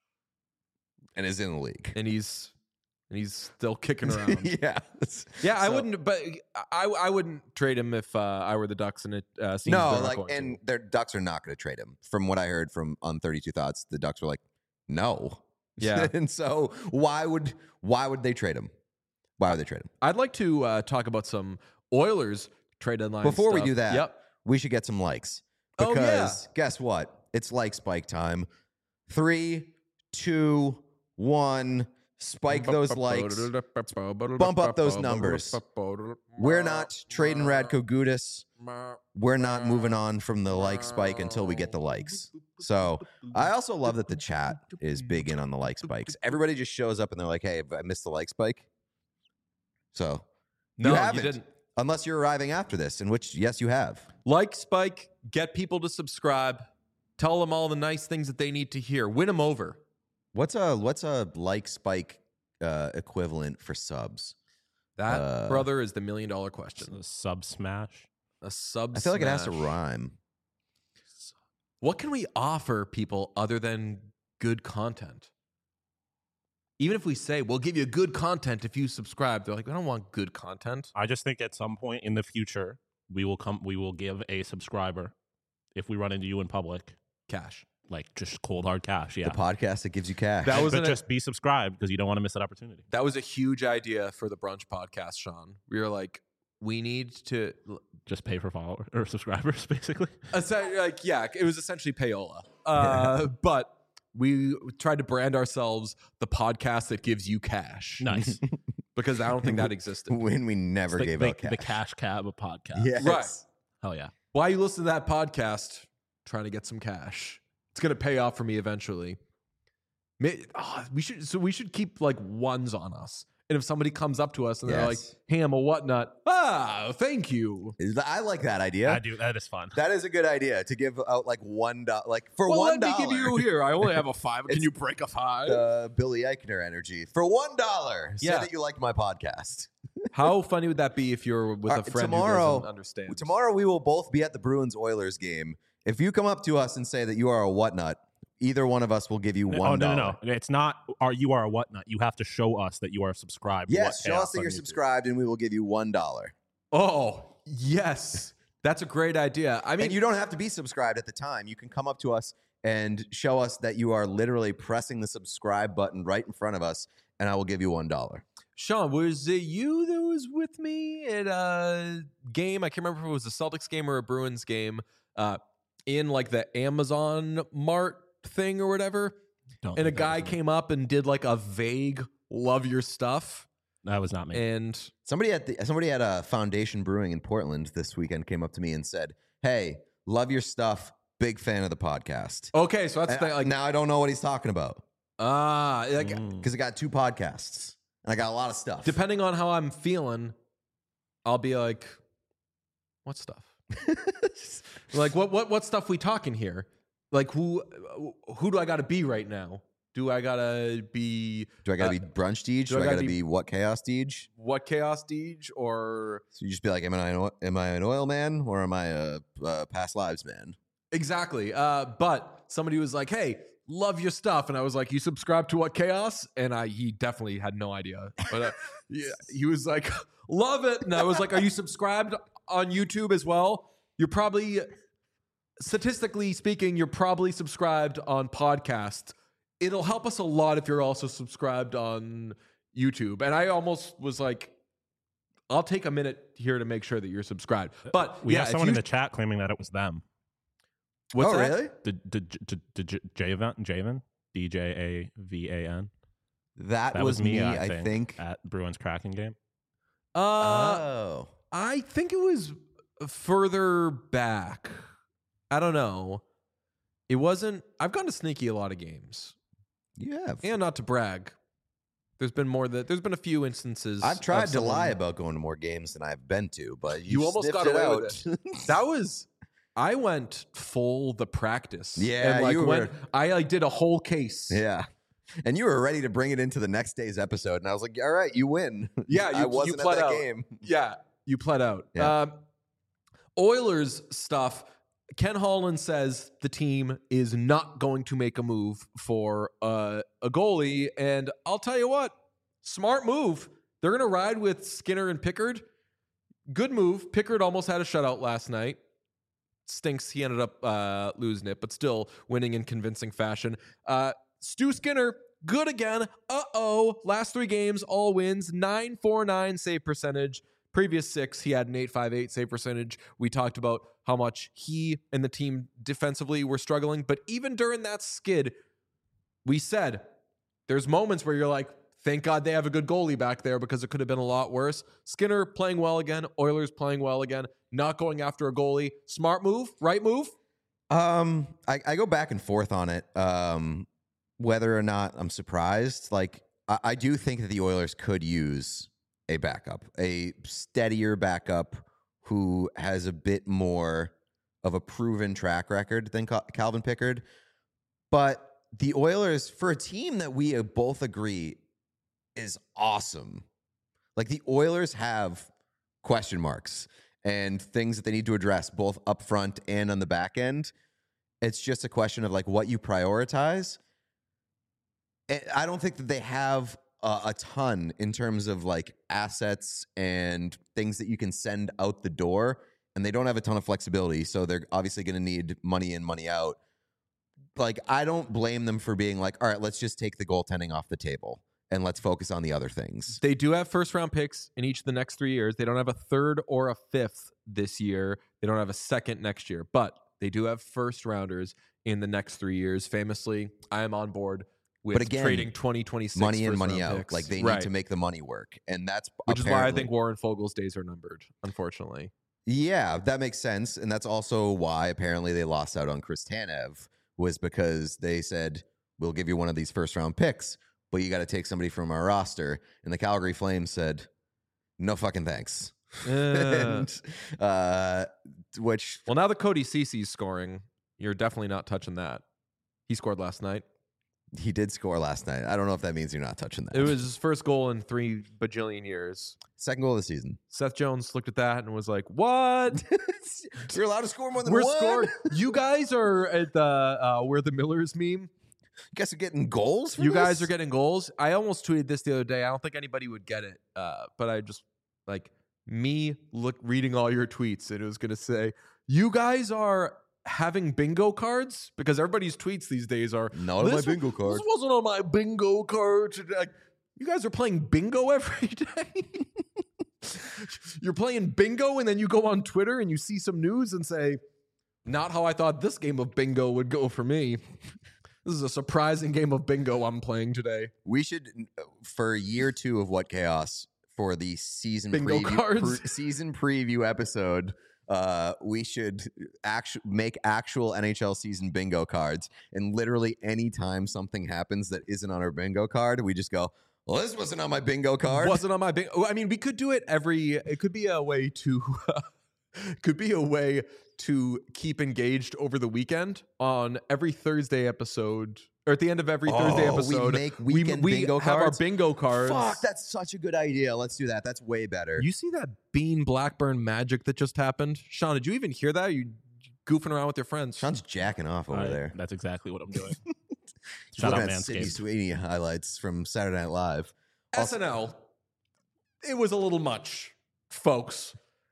and is in the league. and he's and he's still kicking around. yeah. Yeah, I So- wouldn't, but I I wouldn't trade him if uh, I were the Ducks, and it uh, seems No, they're not like, going and to. their Ducks are not going to trade him. From what I heard from on thirty-two Thoughts, the Ducks were like, no. Yeah. and so why would why would they trade him? Why would they trade him? I'd like to uh, talk about some Oilers trade deadline. Before we stuff. do that, Yep. we should get some likes. Oh, Because yeah. guess what? It's like spike time. Three, two, one. Spike those likes. Bump up those numbers. We're not trading Radko Gudas. We're not moving on from the like spike until we get the likes. So I also love that the chat is big in on the like spikes. Everybody just shows up and they're like, hey, have I missed the like spike? So No, you you haven't. didn't. Unless you're arriving after this, in which, yes, you have. Like Spike, get people to subscribe. Tell them all the nice things that they need to hear. Win them over. What's a what's a like spike uh, equivalent for subs? That, Uh, brother, is the million dollar question. It's a sub smash. A sub. I feel like it has to smash. rhyme. What can we offer people other than good content? Even if we say we'll give you good content if you subscribe, they're like, I don't want good content. I just think at some point in the future we will come. We will give a subscriber if we run into you in public, Cash. like just cold hard cash. Yeah, The podcast that gives you cash. That was but an- just be subscribed because you don't want to miss that opportunity. That was a huge idea for the brunch podcast, Sean. We were like, we need to, Just pay for followers or subscribers, basically. essen- like, yeah, it was essentially payola. Uh, but we tried to brand ourselves the podcast that gives you cash. Nice. Because I don't think that existed. when we never the, gave the, out cash. the cash cab of podcast. Yes. Right. Hell yeah. Why you listen to that podcast? Trying to get some cash. It's gonna pay off for me eventually. May- ah, we should so we should keep like ones on us. And if somebody comes up to us and they're like, Yes. "Hey, I'm a whatnot," ah, thank you. Is that- I like that idea. I do. That is fun. That is a good idea to give out like one dollar, like for Well, one let me dollar. give you here. I only have a five. Can It's- you break a five? uh, Billy Eichner energy for one dollar. Say Yeah. that you liked my podcast. How funny would that be if you're with All a right, friend who tomorrow- doesn't understand? Tomorrow we will both be at the Bruins Oilers game. If you come up to us and say that you are a whatnut, either one of us will give you Oh one no, dollar. no, no! It's not. Are you are a whatnot? You have to show us that you are subscribed. to Yes, What show Chaos us that on you're YouTube. subscribed, and we will give you one dollar. Oh yes, that's a great idea. I mean, And you don't have to be subscribed at the time. You can come up to us and show us that you are literally pressing the subscribe button right in front of us, and I will give you one dollar. Sean, was it you that was with me at a game? I can't remember if it was a Celtics game or a Bruins game. Uh, in like the Amazon Mart thing or whatever, Don't and a think that guy was me. came up and did like a vague "love your stuff," That was not me. and Somebody at the somebody at a Foundation Brewing in Portland this weekend came up to me and said, "Hey, love your stuff. Big fan of the podcast." okay, so that's And the, I- like now I don't know what he's talking about ah, like Mm. because I got two podcasts and I got a lot of stuff. depending on how I'm feeling, I'll be like, "What stuff?" Like what what what stuff we talking here? Like who who do I got to be right now? Do I gotta be Do I gotta uh, be brunch Deej? do Do, I I gotta gotta be- be, what chaos Deej? what chaos Deej or So you just be like, am I an oil, am I an oil man or am I a, a past lives man? exactly? Uh, but somebody was like, "Hey, love your stuff," and I was like, "You subscribe to what chaos?" And I he definitely had no idea, but uh, yeah, he was like, "Love it," and I was like, "Are you subscribed on YouTube as well?" You're probably, statistically speaking, you're probably subscribed on podcast. It'll help us a lot if you're also subscribed on YouTube. And I almost was like, I'll take a minute here to make sure that you're subscribed. But we yeah, have if someone you- in the chat claiming that it was them. what's oh, that? really? The the the, the J- Javen Javen D J A V A N. That, That was, was me. I, I think. think, at Bruins Kraken game. Uh, oh. I think it was further back. I don't know. It wasn't. I've gone to Sneaky a lot of games, You have. and not to brag. There's been more that there's been a few instances. I've tried of to lie someone- about going to more games than I've been to, but You you, almost sniffed got it away out. with That was. I went full the practice. Yeah, and like you when were- I like did a whole case. Yeah. And you were ready to bring it into the next day's episode, and I was like, "All right, you win." Yeah, I you- wasn't you at pled that out. game. Yeah, you pled out. Yeah. Um, Oilers stuff. Ken Holland says the team is not going to make a move for uh, a goalie. And I'll tell you what, smart move. They're going to ride with Skinner and Pickard. Good move. Pickard almost had a shutout last night. Stinks he ended up uh, losing it, but still winning in convincing fashion. Uh, Stu Skinner, good again. Uh-oh. Last three games, all wins. nine forty-nine save percentage. Previous six, he had an eight fifty-eight save percentage. We talked about how much he and the team defensively were struggling. But even during that skid, we said there's moments where you're like, thank God they have a good goalie back there because it could have been a lot worse. Skinner playing well again. Oilers playing well again. Not going after a goalie. Smart move, right move? Um, I, I go back and forth on it. Um, whether or not I'm surprised. Like, I, I do think that the Oilers could use a backup, a steadier backup who has a bit more of a proven track record than Cal- Calvin Pickard. But the Oilers, for a team that we both agree is awesome, like the Oilers have question marks and things that they need to address both up front and on the back end. It's just a question of like what you prioritize. I don't think that they have a, a ton in terms of like assets and things that you can send out the door, and they don't have a ton of flexibility. So they're obviously going to need money in, money out. Like, I don't blame them for being like, all right, let's just take the goaltending off the table and let's focus on the other things. They do have first round picks in each of the next three years. They don't have a third or a fifth this year. They don't have a second next year, but they do have first rounders in the next three years. Famously, I am on board with but again, trading twenty twenty-six money in, first money round out. picks. Like, they right. need to make the money work. And that's Which is why I apparently- think Warren Fogel's days are numbered, unfortunately. Yeah, that makes sense. And that's also why apparently they lost out on Chris Tanev, was because they said, we'll give you one of these first round picks, but you got to take somebody from our roster. And the Calgary Flames said, no fucking thanks. Uh, and, uh, which, well, now that Cody Cece's scoring, you're definitely not touching that. He scored last night. he did score last night. I don't know if that means you're not touching that. It was his first goal in three bajillion years. Second goal of the season. Seth Jones looked at that and was like, what? You're allowed to score more than We're one? scoring. You guys are at the, uh, we're the Millers meme. You guys are getting goals for You this? guys are getting goals. I almost tweeted this the other day. I don't think anybody would get it. Uh, but I just, like, me look reading all your tweets, and it was going to say, you guys are having bingo cards? Because everybody's tweets these days are, Not on my "This wa- bingo card." This wasn't on my bingo card today. Like, you guys are playing bingo every day? You're playing bingo, and then you go on Twitter and you see some news and say, not how I thought this game of bingo would go for me. This is a surprising game of bingo I'm playing today. We should, for year two of What Chaos, for the season Bingo preview, cards. pre- season preview episode, uh, we should actu- make actual N H L season bingo cards. And literally any time something happens that isn't on our bingo card, we just go, well, this wasn't on my bingo card. Wasn't on my bingo. I mean, we could do it every. It could be a way to. could be a way to keep engaged over the weekend on every Thursday episode, or at the end of every Thursday Oh, we episode. make weekend we, bingo have cards? our bingo cards. Fuck, that's such a good idea. Let's do that. That's way better. You see that Bean Blackburn magic that just happened, Sean? Did you even hear that? You goofing around with your friends? Sean's jacking off over I- there. That's exactly what I'm doing. He's Shout out looking at Sydney Manscaped. Sweeney highlights from Saturday Night Live. S N L. It was a little much, folks.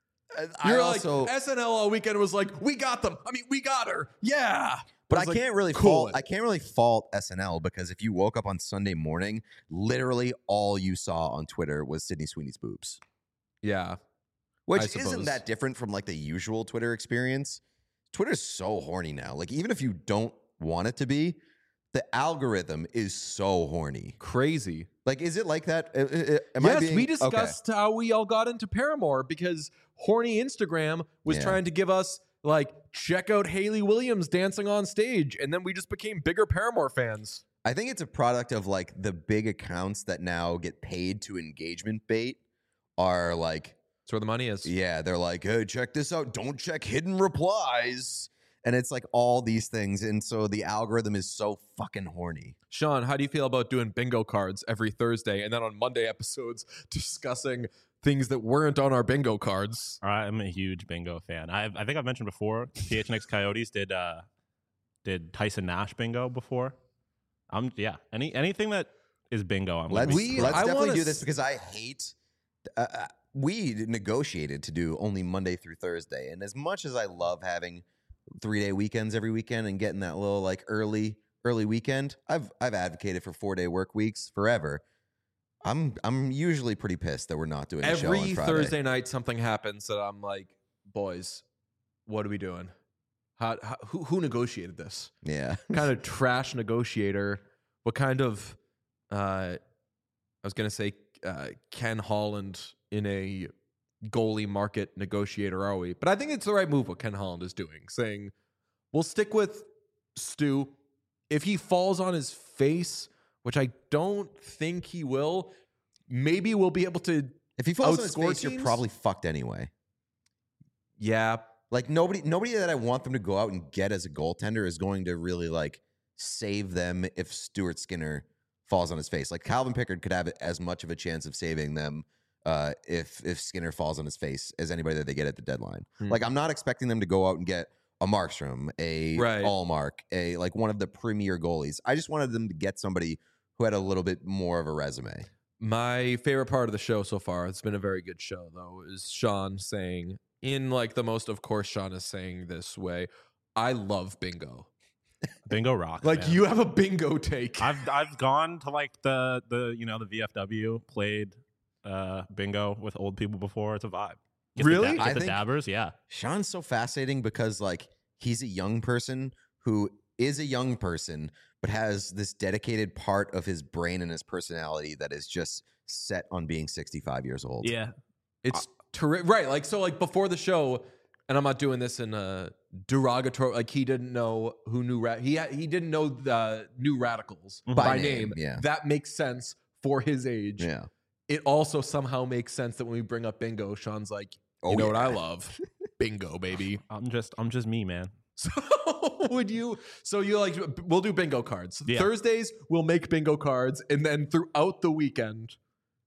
I You're also, like S N L all weekend was like, we got them. I mean, we got her. Yeah. but I was like, can't really cool fault. it. I can't really fault S N L because if you woke up on Sunday morning, literally all you saw on Twitter was Sydney Sweeney's boobs, Yeah. which I isn't suppose. that different from like the usual Twitter experience. Twitter's so horny now. Like even if you don't want it to be, the algorithm is so horny. Crazy. Like, is it like that? Uh, uh, Am I yes, being- we okay. discussed how we all got into Paramore because horny Instagram was Yeah. trying to give us like, check out Hayley Williams dancing on stage. And then we just became bigger Paramore fans. I think it's a product of like the big accounts that now get paid to engagement bait are like, That's where the money is. yeah, they're like, hey, check this out. Don't check hidden replies. And it's like all these things. And so the algorithm is so fucking horny. Sean, how do you feel about doing bingo cards every Thursday and then on Monday episodes discussing things that weren't on our bingo cards. I'm a huge bingo fan. I I think I've mentioned before. P H N X Coyotes did uh did Tyson Nash bingo before. Um yeah. Any anything that is bingo. I'm Let's, We- let's I definitely wanna do this s- because I hate. Uh, uh, we negotiated to do only Monday through Thursday, and as much as I love having three day weekends every weekend and getting that little like early early weekend, I've I've advocated for four day work weeks forever. I'm I'm usually pretty pissed that we're not doing a show Every on Friday. Thursday night, something happens that I'm like, boys, what are we doing? How, how who who negotiated this? Yeah, What kind of trash negotiator? What kind of uh, I was gonna say uh, Ken Holland in a goalie market negotiator are we? But I think it's the right move what Ken Holland is doing, saying we'll stick with Stu. If he falls on his face, which I don't think he will, maybe we'll be able to. if he falls on his Outscore face, you're teams? probably fucked anyway. Yeah, Like nobody, nobody that I want them to go out and get as a goaltender is going to really like save them if Stuart Skinner falls on his face. Like Calvin Pickard could have as much of a chance of saving them uh, if if Skinner falls on his face as anybody that they get at the deadline. Hmm. Like I'm not expecting them to go out and get a Markstrom, a Right. Allmark, a like one of the premier goalies. I just wanted them to get somebody who had a little bit more of a resume. my favorite part of the show so far, it's been a very good show though, is Sean saying, in like the most, of course, Sean is saying this way, I love bingo. bingo rock. Like man. you have a bingo take. I've I've gone to like the the you know the V F W played uh bingo with old people before. It's a vibe. Get the Really? da- I get the think- dabbers, yeah. Sean's so fascinating because like he's a young person who is a young person but has this dedicated part of his brain and his personality that is just set on being sixty-five years old. Yeah. It's terrific. Right. Like, so like before the show, and I'm not doing this in a derogatory, like he didn't know who knew, ra- he, ha- he didn't know the new radicals Mhm. by, By name. name, yeah. That makes sense for his age. Yeah. It also somehow makes sense that when we bring up bingo, Sean's like, you Oh, know what I yeah. love? Bingo, baby. I'm just I'm just me, man. So would you, so you like, we'll do bingo cards. Yeah. Thursdays, we'll make bingo cards. And then throughout the weekend,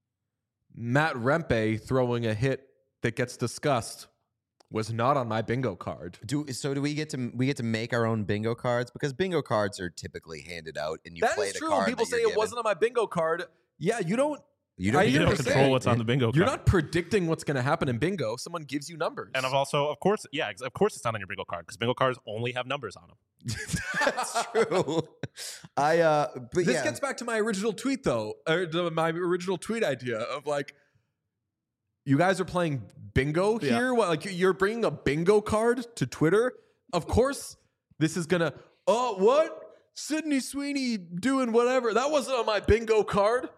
Matt Rempe throwing a hit that gets discussed was not on my bingo card. Do so? Do we get to we get to make our own bingo cards because bingo cards are typically handed out and you That play is the true. card. People that say you're it given. wasn't on my bingo card. Yeah, you don't, You I don't. You hear don't what you're control saying. what's on the bingo card. you're not predicting what's going to happen in bingo. Someone gives you numbers. And I've also, of course, yeah, ex- of course it's not on your bingo card because bingo cards only have numbers on them. That's true. I uh, but This yeah, gets back to my original tweet, though, or to my original tweet idea of like, you guys are playing bingo Yeah. here. What, like you're bringing a bingo card to Twitter? Of course, this is gonna. Oh, what? Sydney Sweeney doing whatever. That wasn't on my bingo card.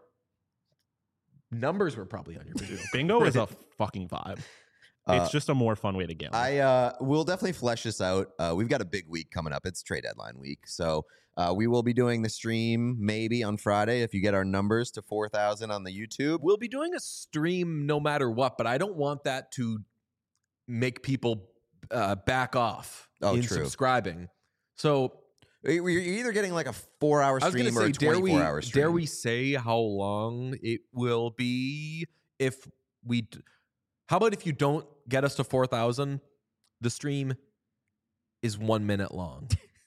Numbers were probably on your bingo. Bingo is a fucking vibe. Uh, It's just a more fun way to gamble. I uh, we'll definitely flesh this out. Uh, we've got a big week coming up. It's trade deadline week, so uh, we will be doing the stream maybe on Friday if you get our numbers to four thousand on the YouTube. We'll be doing a stream no matter what, but I don't want that to make people uh, back off Oh, in true. subscribing. So You're either getting like a four-hour I was going stream to or say, a dare we, twenty-four-hour stream. dare we say how long it will be if we? D- how about if you don't get us to four thousand, the stream is one minute long,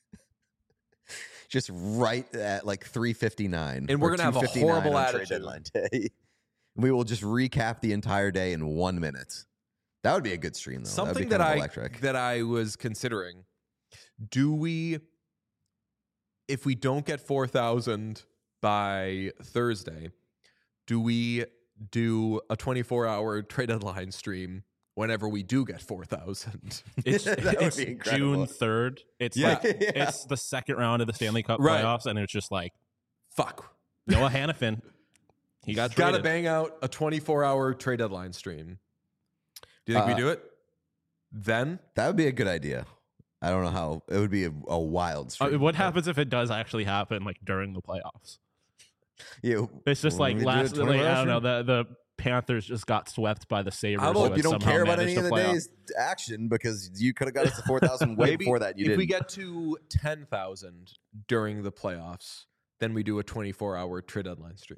Just right at like three fifty-nine, And we're or gonna have a two fifty-nine horrible on trade attitude. deadline day. We will just recap the entire day in one minute. That would be a good stream, though. something that, that would be kind I of electric. that I was considering. Do we, if we don't get four thousand by Thursday, do we do a twenty-four hour trade deadline stream whenever we do get four thousand? it's That would it's be incredible. June third. It's Yeah. like Yeah. it's the second round of the Stanley Cup Right. playoffs, and it's just like Fuck. Noah Hannafin. He got Got to traded. bang out a twenty-four hour trade deadline stream. Do you think Uh, we do it? Then? That would be a good idea. I don't know how. It would be a, a wild Uh, stream. what but- happens if it does actually happen, like during the playoffs? Yeah, It's just when like we do last, a like, twenty-four hour I don't know, stream? the the Panthers just got swept by the Sabres. I but hope you don't somehow care about managed any of to the play off. day's action because you could have got us to four thousand way Maybe before that. You if didn't. we get to ten thousand during the playoffs, then we do a twenty-four hour trade deadline stream.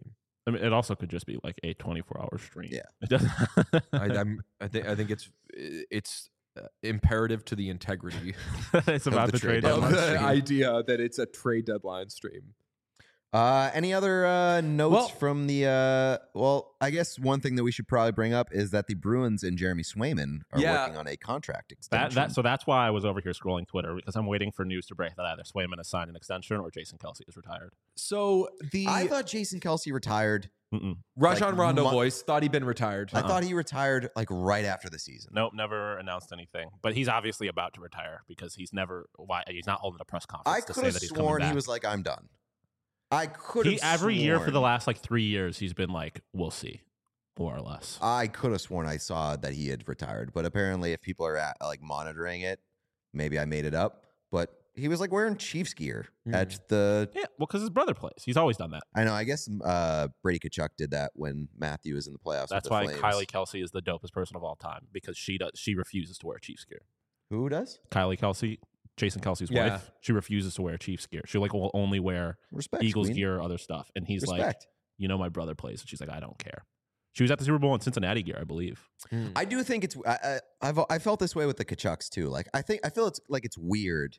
I mean, it also could just be like a twenty-four hour stream. Yeah. It doesn't. I, I'm, I think I think it's it's uh, imperative to the integrity It's about the the trade trade of deadline. deadline. the stream. idea that it's a trade deadline stream. Uh, any other uh, notes Well- from the? Uh, well, I guess one thing that we should probably bring up is that the Bruins and Jeremy Swayman are Yeah. working on a contract That, extension. that so that's why I was over here scrolling Twitter because I'm waiting for news to break that either Swayman has signed an extension or Jason Kelsey is retired. So the I thought Jason Kelsey retired. Mm-mm. Rajon like, Rondo mo- voice thought he'd been retired. I Uh-uh. thought he retired like right after the season. Nope, never announced anything. But he's obviously about to retire because he's never why he's not holding a press conference I to could say have that he's coming sworn back. he was like, "I'm done." I could He, have every year for the sworn- last like three years, he's been like, "We'll see," more or less. I could have sworn I saw that he had retired, but apparently, if people are at, like monitoring it, maybe I made it up. But he was like wearing Chiefs gear Hmm. at the. Yeah, well, because his brother plays. He's always done that. I know. I guess uh, Brady Kachuk did that when Matthew was in the playoffs. That's with why the Flames. Kylie Kelsey is the dopest person of all time because she does. She refuses to wear Chiefs gear. Who does Kylie Kelsey, Jason Kelsey's Yeah. wife, she refuses to wear Chiefs gear. She like will only wear respect Eagles Queen. gear or other stuff. And he's like, Respect. you know, my brother plays. And she's like, I don't care. She was at the Super Bowl in Cincinnati gear, I believe. Hmm. I do think it's. I, I, I've I felt this way with the Kachucks too. Like I think I feel it's like it's weird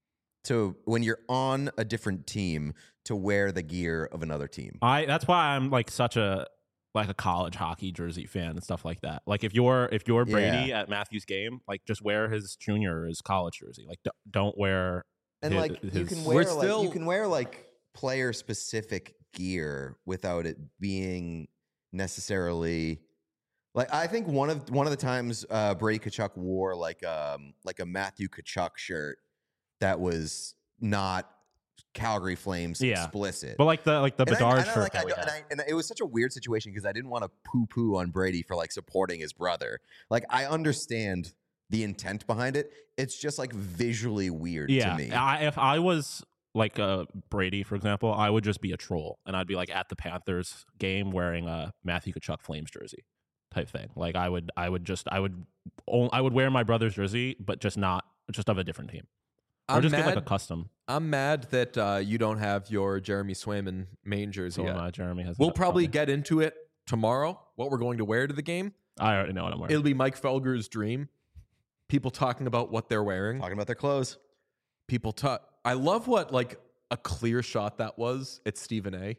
to when you're on a different team to wear the gear of another team. I that's why I'm like such a like a college hockey jersey fan and stuff like that. Like if you're if you're Brady at Matthew's game, like just wear his junior or his college jersey. Like d- don't wear And his- like you his- can We're wear like still- you can wear like player specific gear without it being necessarily like I think one of one of the times uh Brady Kachuk wore like um like a Matthew Kachuk shirt that was not Calgary Flames Yeah. explicit. but like the like the And I- Bedard and I, shirt like, that I we don't- had. and, I, and it was such a weird situation because I didn't want to poo poo on Brady for like supporting his brother. Like I understand the intent behind it. It's just like visually weird yeah, to me. I, if I was like uh, Brady, for example, I would just be a troll and I'd be like at the Panthers game wearing a Matthew Kachuk Flames jersey type thing. Like I would, I would just, I would, o- I would wear my brother's jersey, but just not, just of a different team, or I'm just mad. get like a custom. I'm mad that uh, you don't have your Jeremy Swayman main jersey So yet. uh, Jeremy has. We'll it probably up. get into it tomorrow. What we're going to wear to the game. I already know what I'm wearing. It'll be Mike Felger's dream. People talking about what they're wearing. Talking about their clothes. People talk. I love what like a clear shot that was at Stephen A.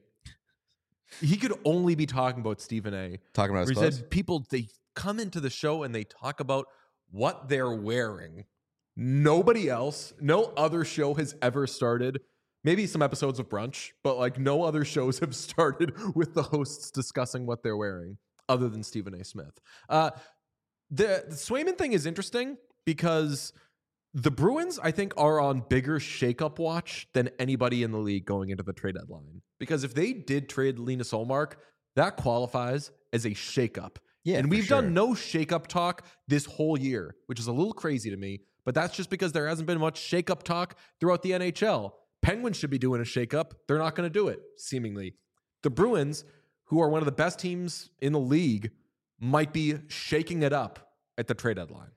He could only be talking about Stephen A. Talking about Where his he clothes. said people they come into the show and they talk about what they're wearing. Nobody else, no other show has ever started. Maybe some episodes of Brunch, but like no other shows have started with the hosts discussing what they're wearing, other than Stephen A. Smith. Uh, the, the Swayman thing is interesting because the Bruins, I think, are on bigger shakeup watch than anybody in the league going into the trade deadline. Because if they did trade Linus Olmark, that qualifies as a shakeup. Yeah, and for we've sure. done no shakeup talk this whole year, which is a little crazy to me. But that's just because there hasn't been much shakeup talk throughout the N H L. Penguins should be doing a shakeup. They're not going to do it, seemingly. The Bruins, who are one of the best teams in the league, might be shaking it up at the trade deadline.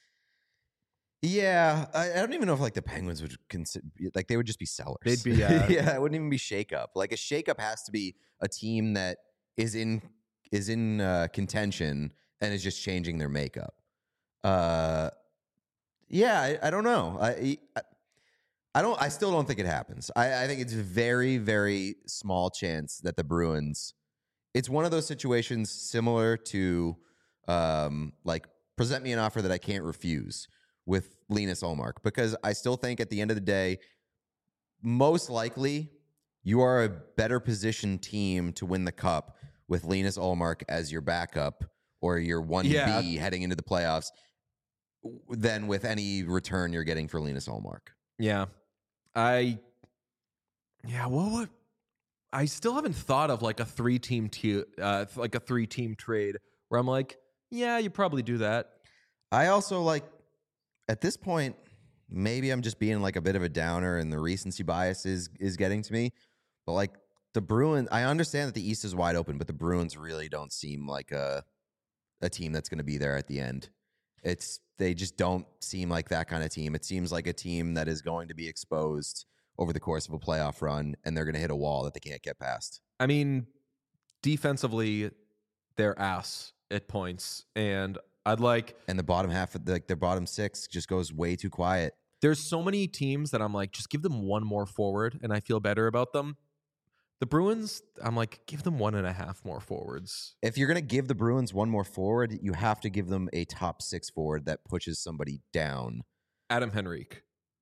Yeah, I, I don't even know if like the Penguins would consider like they would just be sellers. They'd be, uh, yeah, it wouldn't even be shakeup. Like a shakeup has to be a team that is in is in uh, contention and is just changing their makeup. Uh, yeah, I, I don't know. I, I I don't. I still don't think it happens. I, I think it's very very small chance that the Bruins. It's one of those situations similar to um, like present me an offer that I can't refuse with Linus Olmark, because I still think at the end of the day, most likely you are a better positioned team to win the cup with Linus Olmark as your backup or your one B Yeah. heading into the playoffs than with any return you're getting for Linus Olmark. Yeah. I, yeah, what would, I still haven't thought of like a three team, te- uh, like a three team trade where I'm like, yeah, you probably do that. I also like, at this point, maybe I'm just being like a bit of a downer and the recency bias is is getting to me. But like the Bruins, I understand that the East is wide open, but the Bruins really don't seem like a a team that's going to be there at the end. It's they just don't seem like that kind of team. It seems like a team that is going to be exposed over the course of a playoff run, and they're going to hit a wall that they can't get past. I mean, defensively, they're ass at points, and I'd like. And the bottom half of the, like their bottom six just goes way too quiet. There's so many teams that I'm like, just give them one more forward, and I feel better about them. The Bruins, I'm like, give them one and a half more forwards. If you're gonna give the Bruins one more forward, you have to give them a top six forward that pushes somebody down. Adam Henrique.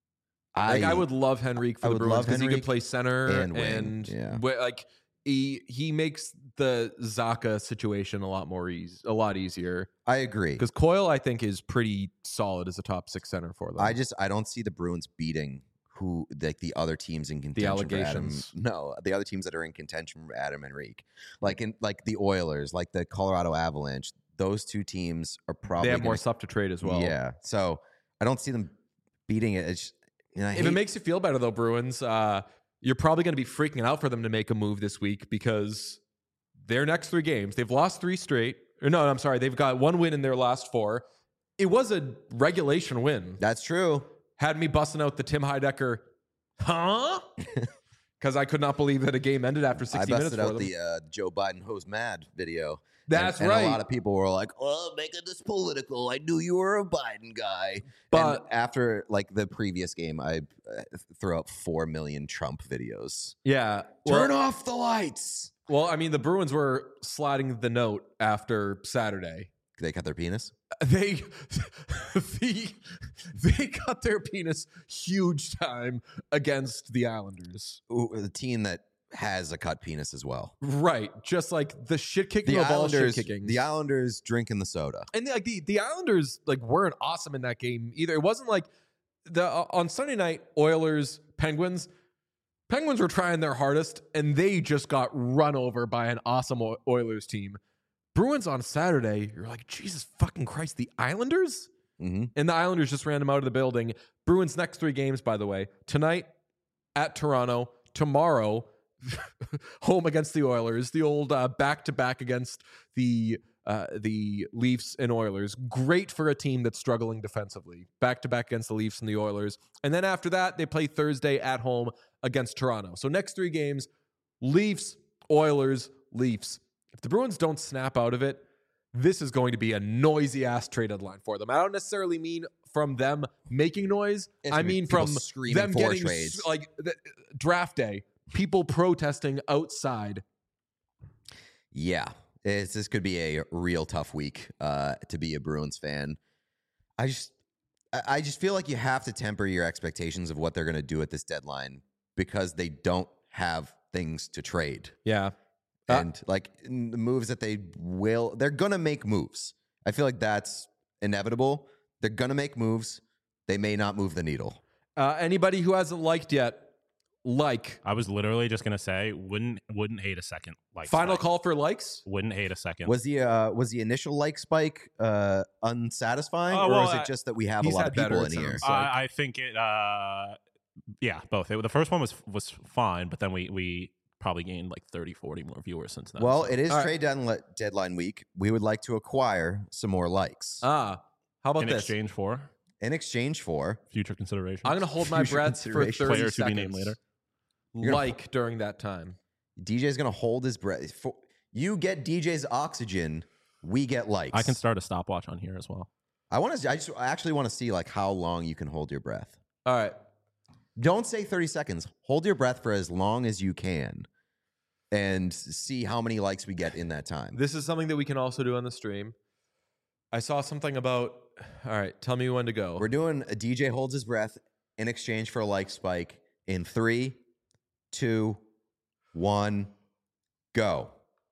I, Like I would love Henrique for I the would Bruins love because he could Henrique play center and and, wing, yeah. wi- like he he makes the Zaka situation a lot more easy, a lot easier. I agree. Because Coyle, I think, is pretty solid as a top six center for them. I just I don't see the Bruins beating who like the other teams in contention. For Adam, allegations. no, the other teams that are in contention for Adam Henrique, like in like the Oilers, like the Colorado Avalanche. Those two teams are probably they have gonna, more stuff to trade as well. Yeah, so I don't see them beating it. It's, you know, I If hate, it makes you feel better, though, Bruins, uh, you're probably going to be freaking out for them to make a move this week because their next three games, they've lost three straight. Or no, I'm sorry, they've got one win in their last four. It was a regulation win. that's true. Had me busting out the Tim Heidecker, huh? Because I could not believe that a game ended after I sixty minutes busted for out them. the uh, Joe Biden who's mad video. That's and, right. And a lot of people were like, "Oh, making this political. I knew you were a Biden guy." But- and after like the previous game, I uh, threw out four million Trump videos. yeah. Turn Well, off the lights. well, I mean, the Bruins were sliding the note after Saturday. They cut their penis. They, the, they cut their penis huge time against the Islanders. Ooh, the team that has a cut penis as well. Right. Just like the shit kicking The of all shit Islanders, kickings. the Islanders drinking the soda. And like the, the Islanders like weren't awesome in that game either. It wasn't like the uh, on Sunday night Oilers Penguins. Penguins were trying their hardest and they just got run over by an awesome O- Oilers team. Bruins on Saturday, you're like, Jesus fucking Christ, the Islanders? Mm-hmm. And the Islanders just ran them out of the building. Bruins next three games, by the way, tonight at Toronto, tomorrow home against the Oilers, the old uh, back-to-back against the uh, the Leafs and Oilers. Great for a team that's struggling defensively. Back-to-back against the Leafs and the Oilers. And then after that, they play Thursday at home against Toronto. So next three games, Leafs, Oilers, Leafs. If the Bruins don't snap out of it, this is going to be a noisy-ass trade deadline for them. I don't necessarily mean from them making noise. It's I gonna be mean people from screaming them for getting trades. s- like the, draft day, people protesting outside. Yeah, it's, this could be a real tough week uh, to be a Bruins fan. I just, I I just feel like you have to temper your expectations of what they're going to do at this deadline because they don't have things to trade. Yeah. Uh, And like in the moves that they will, they're going to make moves. I feel like that's inevitable. They're going to make moves. They may not move the needle. Uh, anybody who hasn't liked yet, like. I was literally just gonna say, wouldn't wouldn't hate a second. Like Final spike. call for likes? Wouldn't hate a second. Was the uh, was the initial like spike uh, unsatisfying, Oh, or well, is I- it just that we have a he's lot had of people better, in it here? sounds like. I, I think it. Uh, yeah, both. It, the first one was was fine, but then we we probably gained like thirty, forty more viewers since then. Well, so. it is All right. trade deadline, deadline week. We would like to acquire some more likes Ah, how about in this? exchange for in exchange for. future consideration. I'm going to hold my Future breath for consideration. thirty Player to be seconds. named later. You're gonna- Like during that time. D J's gonna hold his breath. For, you get D J's oxygen. We get likes. I can start a stopwatch on here as well. I want to. I just. I actually want to see like how long you can hold your breath. All right. Don't say thirty seconds. Hold your breath for as long as you can, and see how many likes we get in that time. This is something that we can also do on the stream. I saw something about. All right. Tell me when to go. We're doing a D J holds his breath in exchange for a like spike in three, two, one, go.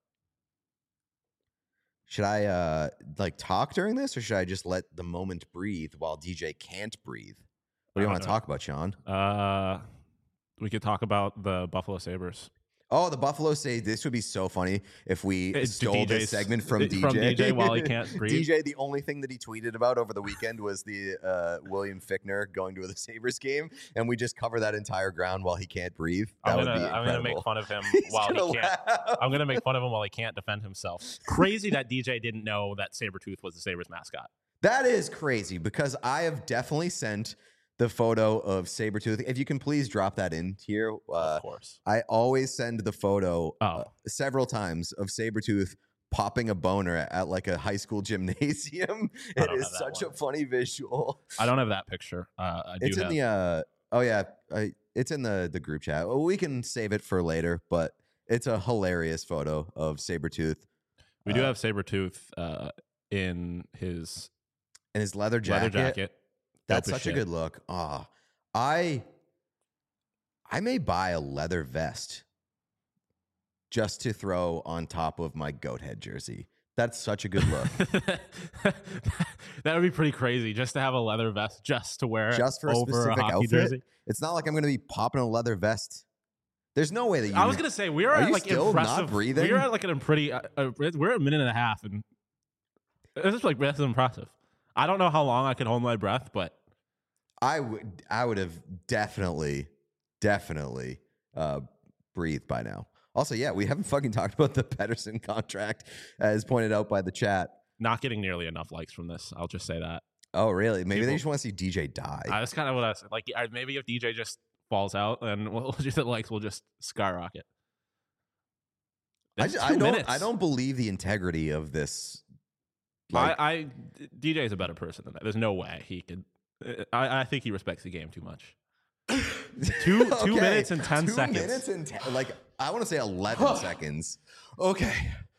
Should I uh like talk during this, or should I just let the moment breathe while D J can't breathe? What do you I want to don't know. talk about, Sean? Uh, we could talk about the Buffalo Sabres. Oh, the Buffalo say this would be so funny if we It's stole D J's this segment from D J. from D J while he can't breathe. D J, the only thing that he tweeted about over the weekend was the uh, William Fickner going to the Sabres game, and we just cover that entire ground while he can't breathe. That I'm would gonna be I'm gonna incredible. make fun of him He's while gonna he can't. laugh. I'm gonna make fun of him while he can't defend himself. Crazy that D J didn't know that Sabretooth was the Sabres mascot. That is crazy because I have definitely sent the photo of Sabretooth. If you can please drop that in here. Uh, of course. I always send the photo Oh. uh, several times of Sabretooth popping a boner at, at like a high school gymnasium. I It don't is have that such one. a funny visual. I don't have that picture. Uh, I do It's in have. the uh oh yeah, I, it's in the the group chat. Well, we can save it for later, but it's a hilarious photo of Sabretooth we do uh, have Sabretooth uh, in his and his leather jacket. leather jacket. That's Dope as such a shit. good look. Ah, I I may buy a leather vest just to throw on top of my goat head jersey. That's such a good look. That would be pretty crazy just to have a leather vest just to wear Just for a over specific a hockey outfit? jersey. It's not like I'm going to be popping a leather vest. There's no way that you. I was gonna say we are, Are at you like still not impressive. breathing? We are at like an pretty. Uh, uh, we're at a minute and a half, and this is like that's impressive. I don't know how long I can hold my breath, but I would. I would have definitely, definitely uh, breathed by now. Also, yeah, we haven't fucking talked about the Pedersen contract, as pointed out by the chat. not getting nearly enough likes from this. I'll just say that. Oh, really? Maybe they People- just want to see D J die. Uh, that's kind of what I said. Like, I- maybe if D J just falls out, then we'll just the likes will just skyrocket. I, That's ju- two I don't. minutes. I don't believe the integrity of this. Like, I, I D J is a better person than that. There's no way he could. I, I think he respects the game too much. Two two Okay, minutes and ten two seconds. minutes and ten, like I want to say eleven seconds. Okay.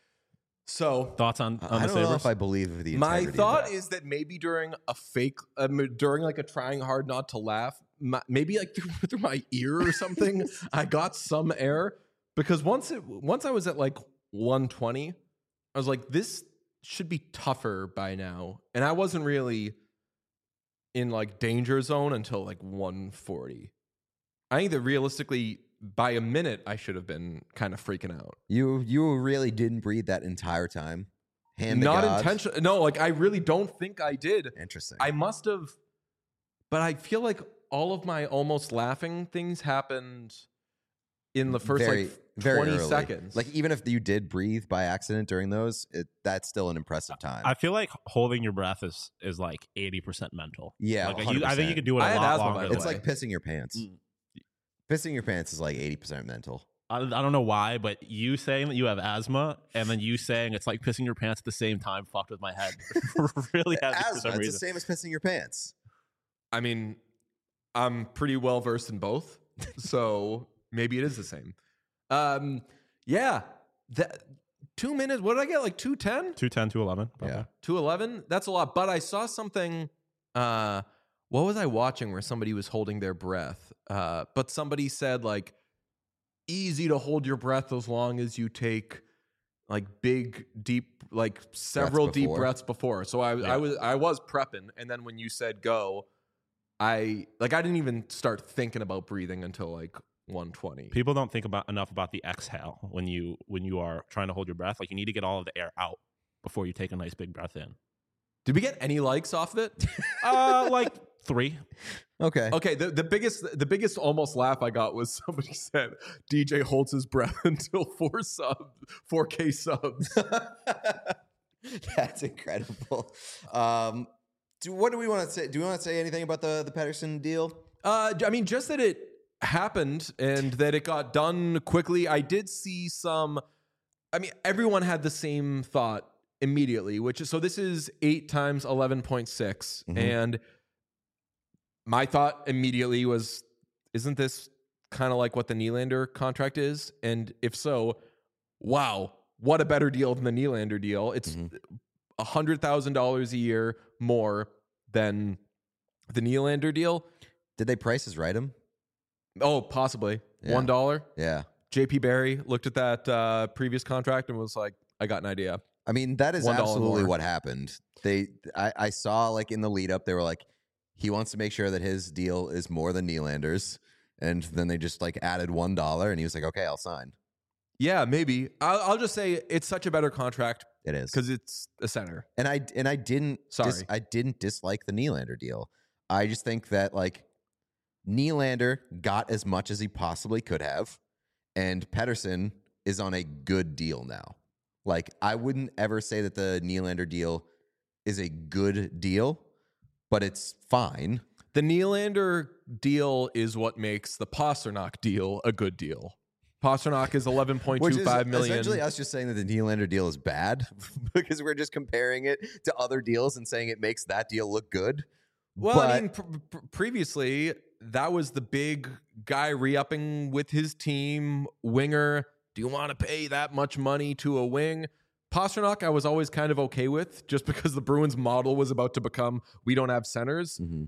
So Thoughts on, on I the don't know Sabres? if I believe the my integrity of thought that. is that maybe during a fake, um, during like a trying hard not to laugh, my, maybe like through, through my ear or something, I got some air because once it once I was at like one twenty, I was like, this should be tougher by now, and I wasn't really in like danger zone until like one forty. I think that realistically, by a minute, I should have been kind of freaking out. You you really didn't breathe that entire time. Hand to Not God. intentional. No, like I really don't think I did. Interesting. I must have, but I feel like all of my almost laughing things happened in the first very, like very twenty early. seconds. Like even if you did breathe by accident during those, it, that's still an impressive time. I feel like holding your breath is is like eighty percent mental. yeah, Like, one you, hundred I think you percent. could do it a I have lot asthma, longer. by the than It's way. like pissing your pants. Mm. Pissing your pants is like eighty percent mental. I, I don't know why, but you saying that you have asthma and then you saying it's like pissing your pants at the same time fucked with my head really heavy for Asthma, some it's reason. the same as pissing your pants. I mean, I'm pretty well versed in both, so maybe it is the same. Um, yeah, that two minutes. What did I get? Like two ten, two ten, two eleven. Yeah. two eleven. That's a lot. But I saw something. Uh, what was I watching where somebody was holding their breath? Uh, but somebody said like, easy to hold your breath as long as you take like big, deep, like several deep before. breaths before. So I, Yeah. I was, I was prepping, and then when you said go, I like I didn't even start thinking about breathing until like one twenty. People don't think about enough about the exhale when you when you are trying to hold your breath. Like you need to get all of the air out before you take a nice big breath in. Did we get any likes off of it? Uh, like three. Okay. Okay, the, the biggest the biggest almost laugh I got was somebody said D J holds his breath until four subs, four K subs. That's incredible. Um, do, what do we want to say? Do we want to say anything about the the Pedersen deal? Uh, I mean, just that it happened and that it got done quickly. I did see some. I mean, everyone had the same thought immediately, which is so. This is eight times eleven point six, Mhm. and my thought immediately was, "Isn't this kind of like what the Nylander contract is?" And if so, wow, what a better deal than the Nylander deal. It's Mhm. a hundred thousand dollars a year more than the Nylander deal. Did they prices right him? Oh, possibly Yeah. one dollar. Yeah. J P Barry looked at that uh, previous contract and was like, "I got an idea." I mean, that is One dollar absolutely more. what happened. They, I, I saw like in the lead up, they were like, he wants to make sure that his deal is more than Nylander's, and then they just like added one dollar, and he was like, okay, I'll sign. Yeah, maybe. I'll, I'll just say it's such a better contract It is because it's a center. and I and I didn't Sorry. dis- I didn't dislike the Nylander deal. I just think that like Nylander got as much as he possibly could have, and Pedersen is on a good deal now. Like I wouldn't ever say that the Nylander deal is a good deal, but it's fine. The Nylander deal is what makes the Pasternak deal a good deal. Pasternak is eleven point two five million. Essentially, us just saying that the Nylander deal is bad because we're just comparing it to other deals and saying it makes that deal look good. Well, but, I mean, pr- pr- previously that was the big guy re-upping with his team winger. Do you want to pay that much money to a wing? Pasternak, I was always kind of okay with, just because the Bruins model was about to become we don't have centers. mm-hmm.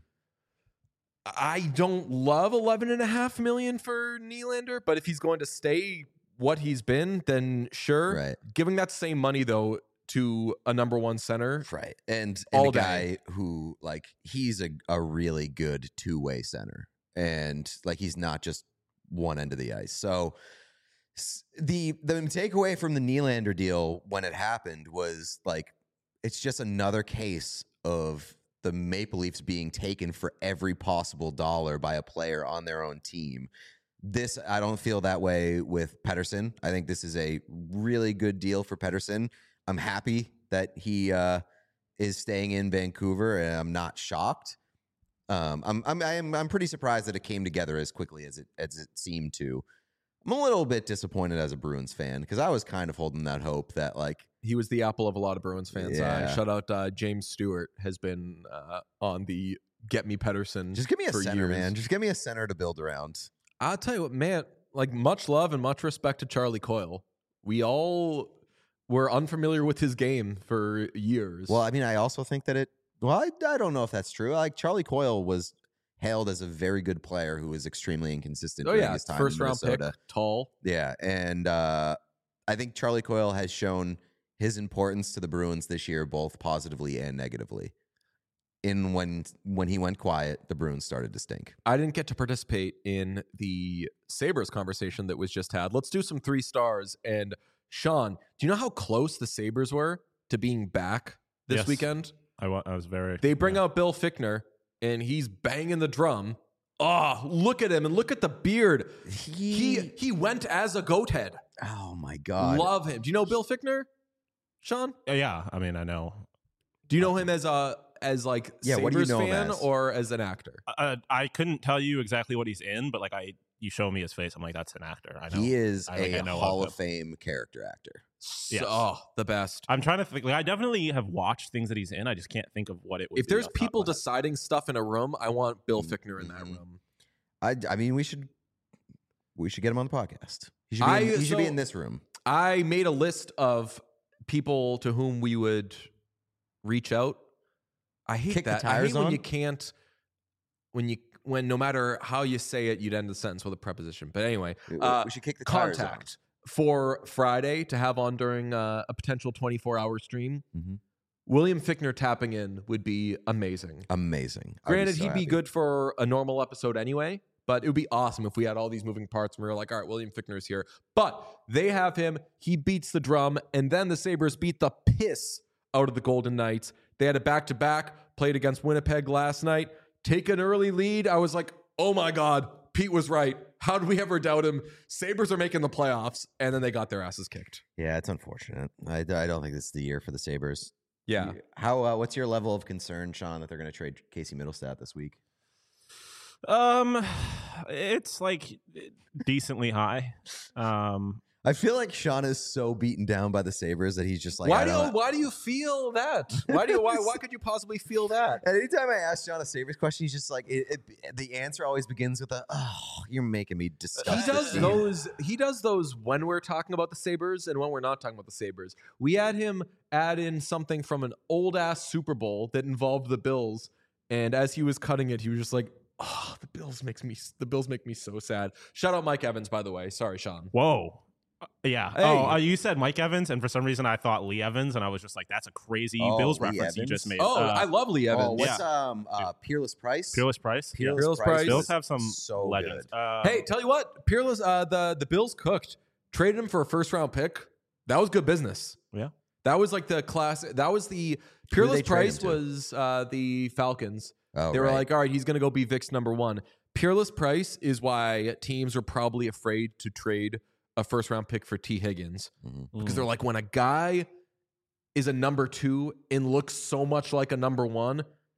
I don't love eleven and a half million for Nylander, but if he's going to stay what he's been, then sure. Right. Giving that same money though to a number one center, Right. And, and all a guy day. who, like, he's a, a really good two-way center. And, like, he's not just one end of the ice. So s- the the takeaway from the Nylander deal when it happened was, like, it's just another case of the Maple Leafs being taken for every possible dollar by a player on their own team. This, I don't feel that way with Pettersson. I think this is a really good deal for Pettersson. I'm happy that he uh, is staying in Vancouver, and I'm not shocked. Um, I'm I'm I'm I'm pretty surprised that it came together as quickly as it as it seemed to. I'm a little bit disappointed as a Bruins fan because I was kind of holding that hope that, like, he was the apple of a lot of Bruins fans' Yeah. eye. Shout out uh, James Stewart has been uh, on the Get Me Pettersson. just give me a for center, years. man. Just give me a center to build around. I'll tell you what, man, like much love and much respect to Charlie Coyle. We all were unfamiliar with his game for years. Well, I mean, I also think that it. Well, I, I don't know if that's true. Like, Charlie Coyle was hailed as a very good player who was extremely inconsistent oh during yeah, his time first in round Minnesota. pick, tall. Yeah, and uh, I think Charlie Coyle has shown his importance to the Bruins this year, both positively and negatively. In when when he went quiet, the Bruins started to stink. I didn't get to participate in the Sabres conversation that was just had. Let's do some three stars. And Sean, do you know how close the Sabres were to being back this Yes. weekend? I, wa- I was very. They bring yeah. out Bill Fichtner, and he's banging the drum. Oh, look at him, and look at the beard. He he went as a goat head. Oh my god, Love him. Do you know Bill Fichtner, Sean? Uh, yeah, I mean, I know. Do you know him as a as like Yeah, what do you Sabres know him fan as? or as an actor? Uh, I couldn't tell you exactly what he's in, but like I, you show me his face, I'm like, that's an actor. I know. he is I think a I know Hall of of Fame character actor. So, Yes. Oh, the best. I'm trying to think. Like, I definitely have watched things that he's in. I just can't think of what it would If be there's off the top people of my head. deciding stuff in a room, I want Bill Fichtner in that Mhm. room. I, I mean, we should we should get him on the podcast. He should be, I- in, he should be so- in this room. I made a list of people to whom we would reach out. I hate Kick the that. I hate tires when on? you can't, when you, when no matter how you say it, you'd end the sentence with a preposition. But anyway, We- uh, we should kick the tires on. contact for Friday to have on during uh, a potential twenty-four hour stream. Mhm. William Fichtner tapping in would be amazing. Amazing. I'd Granted, so he'd happy. be good for a normal episode anyway, but it would be awesome if we had all these moving parts and we were like, all right, William Fichtner's here. But they have him. He beats the drum, and then the Sabres beat the piss out of the Golden Knights. They had a back-to-back, played against Winnipeg last night. Take an early lead. I was like, oh my God, Pete was right. How did we ever doubt him? Sabres are making the playoffs, and then they got their asses kicked. Yeah, it's unfortunate. I, I don't think this is the year for the Sabres. Yeah. How? Uh, what's your level of concern, Sean, that they're going to trade Casey Middlestat this week? Um, it's like decently high. Um, I feel like Sean is so beaten down by the Sabres that he's just like, why I do you, don't- why do you feel that? Why do you, why why could you possibly feel that? And anytime I ask Sean a Sabres question, he's just like, it, it, the answer always begins with a, oh, you're making me disgusted. He does those. He does those when we're talking about the Sabres and when we're not talking about the Sabres. We had him add in something from an old ass Super Bowl that involved the Bills, and as he was cutting it, he was just like, "Oh, the Bills makes me. The Bills make me so sad." Shout out Mike Evans, by the way. Sorry, Sean. whoa. Uh, yeah. Hey. Oh, uh, you said Mike Evans, and for some reason I thought Lee Evans, and I was just like, that's a crazy Oh, Bills Lee reference you Evans? just made. Oh, Uh, I love Lee Evans. Oh, what's um uh, Peerless Price? Peerless Price. Yeah. Peerless, Peerless Price. Price. Bills is have some so legends. good. Uh, Hey, tell you what, Peerless. Uh, the the Bills cooked. Traded him for a first round pick. That was good business. Yeah. That was like the class. That was the Who did Peerless they trade Price him to? was uh, the Falcons. Oh, They were right. like, all right, he's going to go be Vic's number one. Peerless Price is why teams are probably afraid to trade a first round pick for T. Higgins Mhm. because they're like, when a guy is a number two and looks so much like a number one,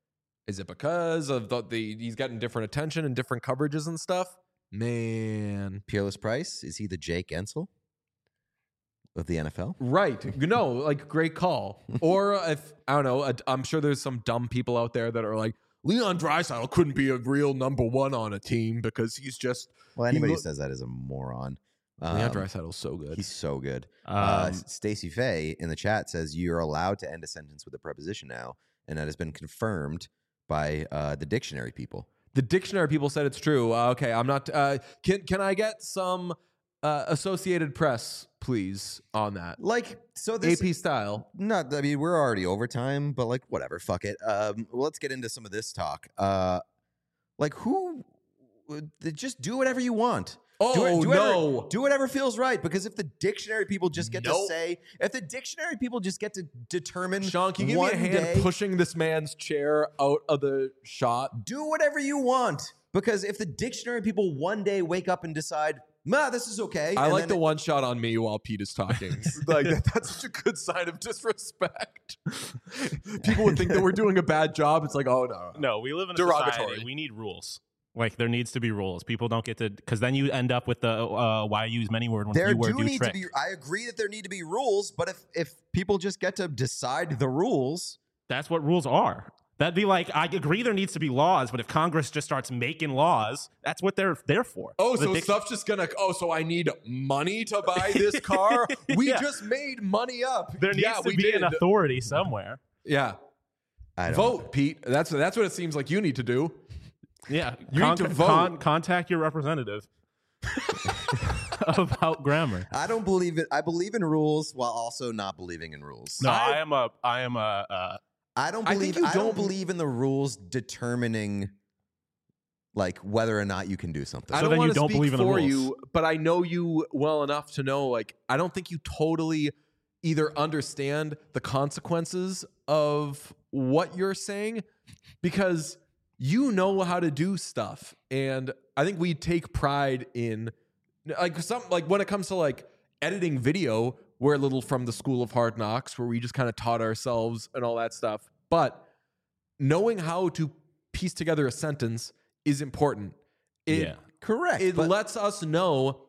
Is it because of the, the he's getting different attention and different coverages and stuff? Man. Peerless Price, is he the Jake Ensel of the N F L? Right. You know, like great call. Or if, I don't know, I'm sure there's some dumb people out there that are like, Leon Draisaitl couldn't be a real number one on a team because he's just. Well, anybody he who says that is a moron. Leon Um, Draisaitl's so good. He's so good. Um, uh, Stacey Faye in the chat says you're allowed to end a sentence with a preposition now, and that has been confirmed by uh, the dictionary people. The dictionary people said it's true. Uh, okay, I'm not. Uh, can can I get some uh, Associated Press, please, on that? Like, so this A P style. Not, I mean, we're already overtime, but like, whatever, fuck it. Um, well, let's get into some of this talk. Uh, like, who? Just do whatever you want. Oh do, it- do no! whatever, do whatever feels right. Because if the dictionary people just get Nope. to say, if the dictionary people just get to determine, Sean, can you give one me a hand day, pushing this man's chair out of the shot? do whatever you want. Because if the dictionary people one day wake up and decide, nah, this is okay. I and like then the it- one shot on me while Pete is talking. Like that, that's such a good sign of disrespect. People would think that we're doing a bad job. It's like, oh no, No, we live in a Derogatory. society. We need rules. Like there needs to be rules. People don't get to because then you end up with the uh, why use many word when There few word do do need trick. to be. I agree that there need to be rules, but if if people just get to decide the rules, That's what rules are. That'd be like I agree there needs to be laws, but if Congress just starts making laws, that's what they're there for. Oh, The so dic- stuff's just gonna. Oh, so I need money to buy this car. We Yeah. just made money up. there needs yeah, to we be did. an authority somewhere. Yeah, I don't. vote, Pete. That's that's what it seems like you need to do. Yeah, You need to vote. contact your representative about grammar. I don't believe it. I believe in rules while also not believing in rules. No, I- I, am a I am a uh, I don't I think believe. you I, don't don't- believe in the rules determining, like whether or not you can do something. I So don't then you want to don't speak believe in the for rules. you, but I know you well enough to know. Like, I don't think you totally either understand the consequences of what you're saying because you know how to do stuff, and I think we take pride in like some like when it comes to like editing video. We're a little from the school of hard knocks where we just kind of taught ourselves and all that stuff. But knowing how to piece together a sentence is important. It, Yeah. Correct. It but lets us know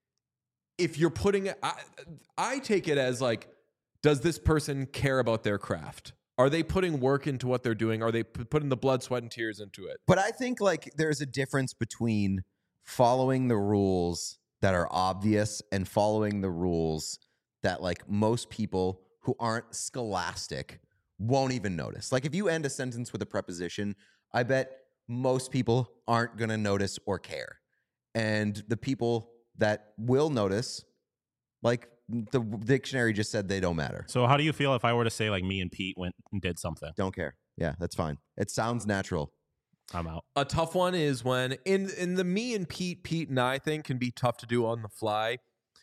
if you're putting it. I, I take it as like, does this person care about their craft? Are they putting work into what they're doing? Are they p- putting the blood, sweat, and tears into it? But I think like there's a difference between following the rules that are obvious and following the rules that like most people who aren't scholastic won't even notice. Like if you end a sentence with a preposition, I bet most people aren't going to notice or care. And the people that will notice, like the dictionary just said they don't matter. So how do you feel if I were to say like me and Pete went and did something? Don't care. Yeah, that's fine. It sounds natural. I'm out. A tough one is when in in the me and Pete, Pete and I thing can be tough to do on the fly.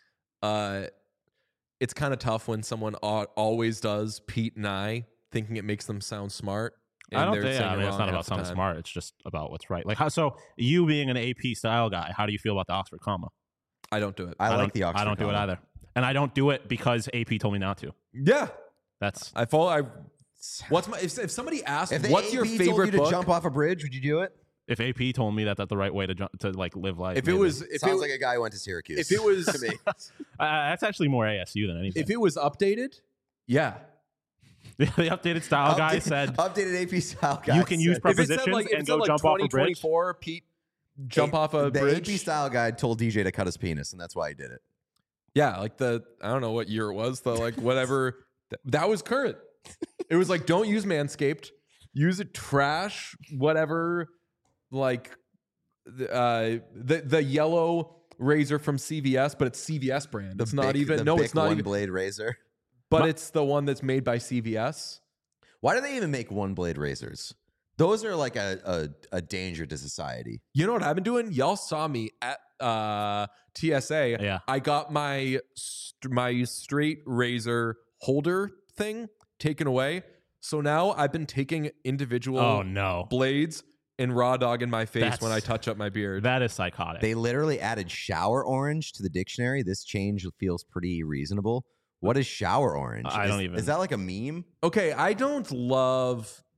Uh, it's kind of tough when someone al- always does Pete and I, thinking it makes them sound smart. I don't they're think. saying I it mean, it's wrong not half about the sounding time. smart. It's just about what's right. Like how? So you being an A P style guy, how do you feel about the Oxford comma? I don't do it. I, like don't, the Oxford I don't do it comma. either, and I don't do it because A P told me not to. Yeah, That's I follow. I what's my if, if somebody asks If the what's A P your told favorite you to book? jump off a bridge, would you do it? if A P told me that that's the right way to jump, to like live life. if it maybe. was if Sounds it, like a guy who went to Syracuse. if it was to me. uh, that's actually more A S U than anything. if it was updated, yeah. the updated style guy Updated- said updated A P style guy. you can use said- If it said prepositions like if and it go said like jump off a twenty bridge. twenty-four, Pete jump off a the bridge. A P style guy told D J to cut his penis, and that's why he did it. Yeah, like the I don't know what year it was. The like whatever th- that was current. It was like don't use Manscaped, use a trash whatever like the uh, the the yellow razor from C V S, but it's C V S brand. The it's not Bic- even the no, Bic it's not one even. blade razor. But My- it's the one that's made by C V S. Why do they even make one blade razors? Those are like a, a a danger to society. You know what I've been doing? Y'all saw me at uh, T S A. Yeah. I got my st- my straight razor holder thing taken away. So now I've been taking individual oh no, blades and raw dog in my face That's- when I touch up my beard. that is psychotic. They literally added shower orange to the dictionary. This change feels pretty reasonable. What is shower orange? I Is- don't even- Is that like a meme? Okay, I don't love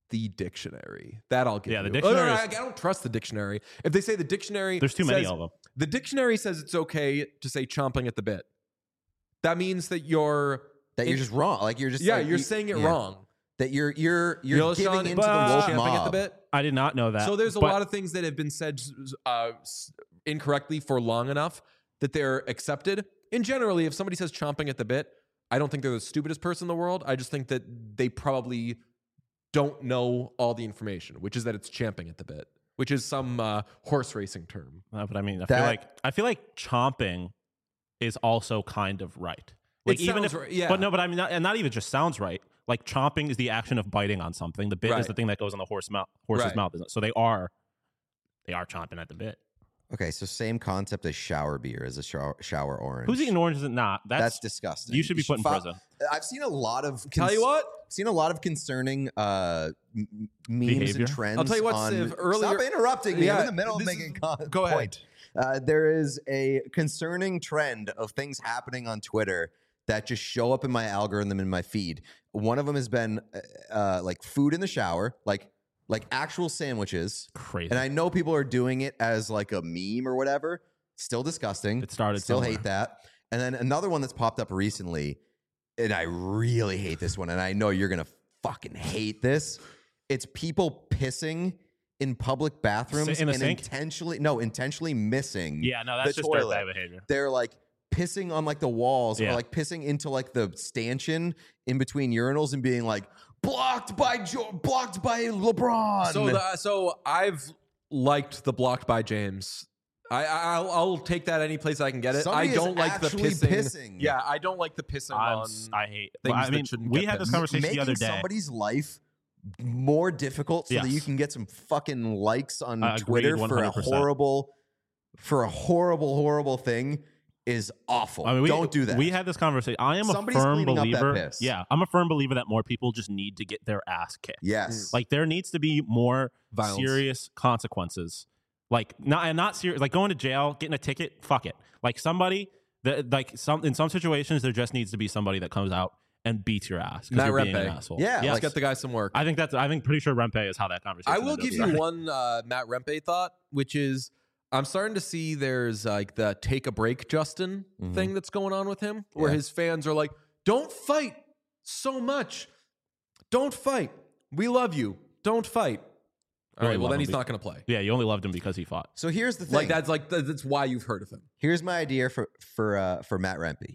the dictionary. That I'll give Yeah, you. the Oh, no, no, dictionary I, is- I don't trust the dictionary. If they say the dictionary, There's too many says- of them. The dictionary says it's okay to say chomping at the bit. That means that you're That you're it- just wrong. Like you're just yeah, like, you're you- saying it yeah. wrong. That you're you're You you're know, giving Sean, into the but- woke champing mob. at the bit. I did not know that. So there's a but lot of things that have been said uh, s- incorrectly for long enough that they're accepted. And generally, if somebody says chomping at the bit, I don't think they're the stupidest person in the world. I just think that they probably don't know all the information, which is that it's champing at the bit, which is some uh, horse racing term. Uh, but I mean, I That- feel like I feel like chomping is also kind of right. Like It even sounds if, right, yeah. but no, but I mean, not, and not even just sounds right. Like chomping is the action of biting on something. The bit Right. is the thing that goes in the horse mouth, horse's Right. mouth. So they are, they are chomping at the bit. Okay, so same concept as shower beer as a shower, shower orange. Who's eating oranges and not? That's, That's disgusting. you should be put in fi- prison. I've seen a lot of. Tell you cons- what, seen a lot of concerning uh, m- memes Behavior. and trends. I'll tell you what, on, Siv, earlier- Stop interrupting me. I'm Yeah, in the middle of this making is- a con- go ahead. point. Uh, there is a concerning trend of things happening on Twitter that just show up in my algorithm in my feed. One of them has been uh, uh, like food in the shower, like like actual sandwiches. Crazy. And I know people are doing it as like a meme or whatever. Still disgusting. It started Still somewhere. hate that. And then another one that's popped up recently, and I really hate this one, and I know you're gonna fucking hate this. It's people pissing in public bathrooms In the and sink? intentionally no, intentionally missing. yeah, no, that's the just toilet. dirtbag behavior. They're like pissing on like the walls Yeah. or like pissing into like the stanchion in between urinals and being like blocked by jo- blocked by LeBron. so the, so I've liked the blocked by James. I, I I'll, I'll take that any place I can get it. Somebody I is don't like the actually pissing. pissing. Yeah, I don't like the pissing I'm, on. s- I hate. things Well, I that mean, shouldn't we get had this pissed. conversation making the other day. somebody's life more difficult so that Yes. you can get some fucking likes on I agreed Twitter for a one hundred percent. horrible for a horrible horrible thing is awful. I mean, we, don't do that. We had this conversation. I am Somebody's a firm cleaning up that believer. piss. Yeah, I'm a firm believer that more people just need to get their ass kicked. yes. Like there needs to be more Violence. serious consequences. Like not and not serious. Like going to jail, getting a ticket. Fuck it. Like somebody that like some in some situations there just needs to be somebody that comes out and beats your ass because Matt you're being an Rempe. asshole. Yeah, Yes. Let's get the guy some work. I think that's. I think pretty sure Rempe is how that conversation. I will ended give up. you one uh, Matt Rempe thought, which is I'm starting to see there's like the take a break Justin Mhm. thing that's going on with him, where Yeah. his fans are like, "Don't fight so much. Don't fight. We love you. Don't fight." All Really right. Well, love then him he's be- not going to play. Yeah, you only loved him because he fought. So here's the thing. Like that's like th- that's why you've heard of him. Here's my idea for for uh, for Matt Rempe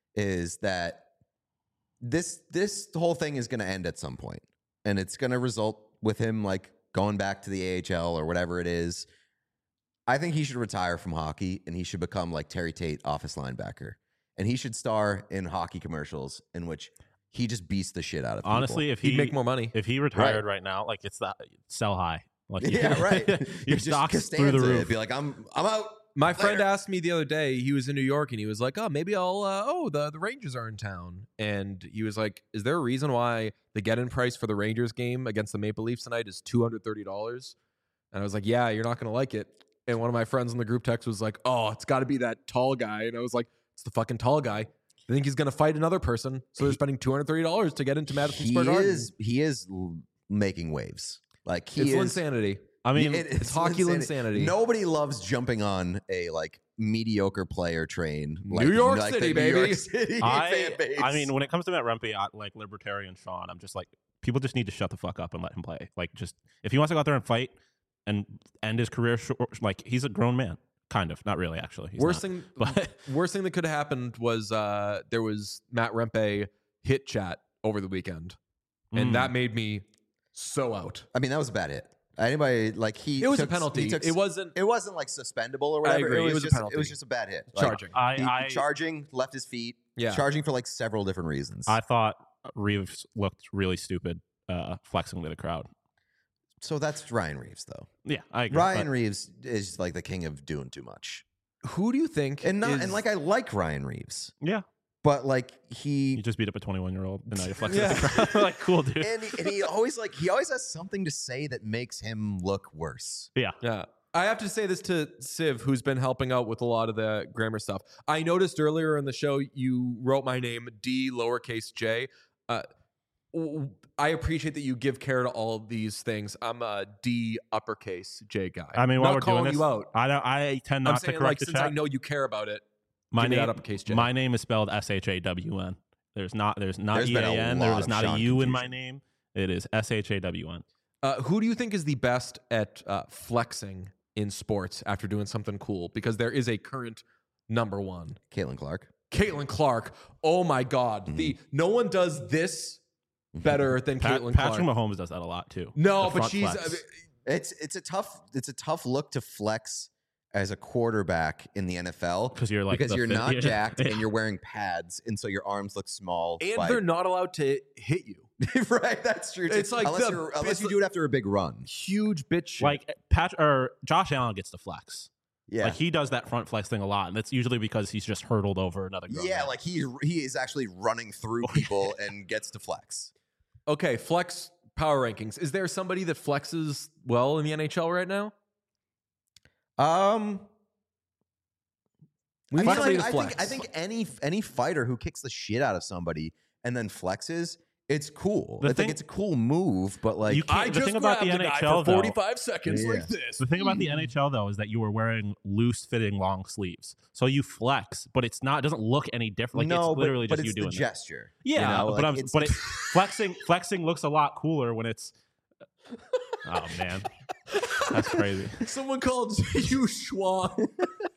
is that this this whole thing is going to end at some point, and it's going to result with him like going back to the A H L or whatever it is. I think he should retire from hockey and he should become like Terry Tate, office linebacker, and he should star in hockey commercials in which he just beats the shit out of people. Honestly, if He'd he make more money. if he retired right, now, like it's that sell high. Like yeah, right. your You're just stock's through the Costanza. roof. It'd be like I'm I'm out. My friend Later. asked me the other day. He was in New York and he was like, "Oh, maybe I'll. Uh, oh, the the Rangers are in town." And he was like, "Is there a reason why the get-in price for the Rangers game against the Maple Leafs tonight is two hundred thirty dollars?" And I was like, "Yeah, you're not going to like it." And one of my friends in the group text was like, "Oh, it's got to be that tall guy." And I was like, "It's the fucking tall guy. I think he's going to fight another person, so they're spending two hundred thirty dollars to get into Madison He Square Garden." is he is l- making waves. Like he It's is insanity. I mean, It- It's hockey insanity. insanity. Nobody loves jumping on a like mediocre player train. Like, New York like City, the New York baby. City fan I, base. I mean, when it comes to Matt Rempe, I, like libertarian Sean, I'm just like, people just need to shut the fuck up and let him play. Like, just if he wants to go out there and fight and end his career, short, like he's a grown man, kind of, not really, actually. He's worst not. thing, but worst thing that could have happened was uh, there was Matt Rempe hit chat over the weekend, and Mm. that made me so out. I mean, that was a bad hit. Anybody like he? It was a took- penalty. he took- It wasn't It wasn't like suspendable or whatever. agree. It was, It was a just, penalty. It was just a bad hit. Like, charging. I, he- I, charging, left his feet. Yeah. Charging for like several different reasons. I thought Reeves looked really stupid, uh, flexing to the crowd. so that's Ryan Reeves, though. Yeah, I agree. Ryan but- Reeves is like the king of doing too much, Who do you think? and not is- and like I like Ryan Reeves, yeah, but like he you just beat up a twenty-one year old, and now you're flexing Yeah. at the crowd. Like, cool, dude. and he, and he always like he always has something to say that makes him look worse. Yeah, Yeah. I have to say this to Siv, who's been helping out with a lot of the grammar stuff. I noticed earlier in the show you wrote my name D lowercase j. Uh, I appreciate that you give care to all of these things. I'm a D uppercase J guy. I mean, while not we're calling doing this, you out. I don't. I tend I'm not to saying, correct like, the since chat. I know you care about it, my give me name, that uppercase J. my name is spelled S H A W N. There's not. There's not There's E been A a N. There lot is of not a Sean U in my confusion. name. It is S H A W N. Uh, who do you think is the best at uh, flexing in sports after doing something cool? Because there is a current number one. Caitlin Clark. Caitlin Clark. Oh my God. Mhm. The no one does this better than Pat, Caitlin Patrick Clark. Mahomes does that a lot too. No, The but front she's flex. uh, It's it's a tough it's a tough look to flex as a quarterback in the N F L because you're like because the you're fifth- not jacked Yeah. and you're wearing pads, and so your arms look small. and by- they're not allowed to hit you. right. That's true. too. It's like unless, the- you're, unless it's you like- do it after a big run. Huge bitch shit. like Pat or Josh Allen gets to flex. Yeah. Like he does that front flex thing a lot, and that's usually because he's just hurdled over another. Grown yeah, man. like he he is actually running through people and gets to flex. Okay, flex power rankings. Is there somebody that flexes well in the N H L right now? Um, We I, need feel somebody like- to I think flex. I think any any fighter who kicks the shit out of somebody and then flexes, it's cool. The I thing- think it's a cool move, but like You can't- the thing about the N H L, for though- forty-five seconds Yeah. like this. The thing about the N H L though is that you were wearing loose fitting long sleeves, so you flex, but it's not. It doesn't look any different. Like no, it's literally but, just but you it's doing the that. gesture. Yeah, you know? but like, I'm, it's- but it, flexing flexing looks a lot cooler when it's. Oh man, that's crazy. Someone called you Schwan.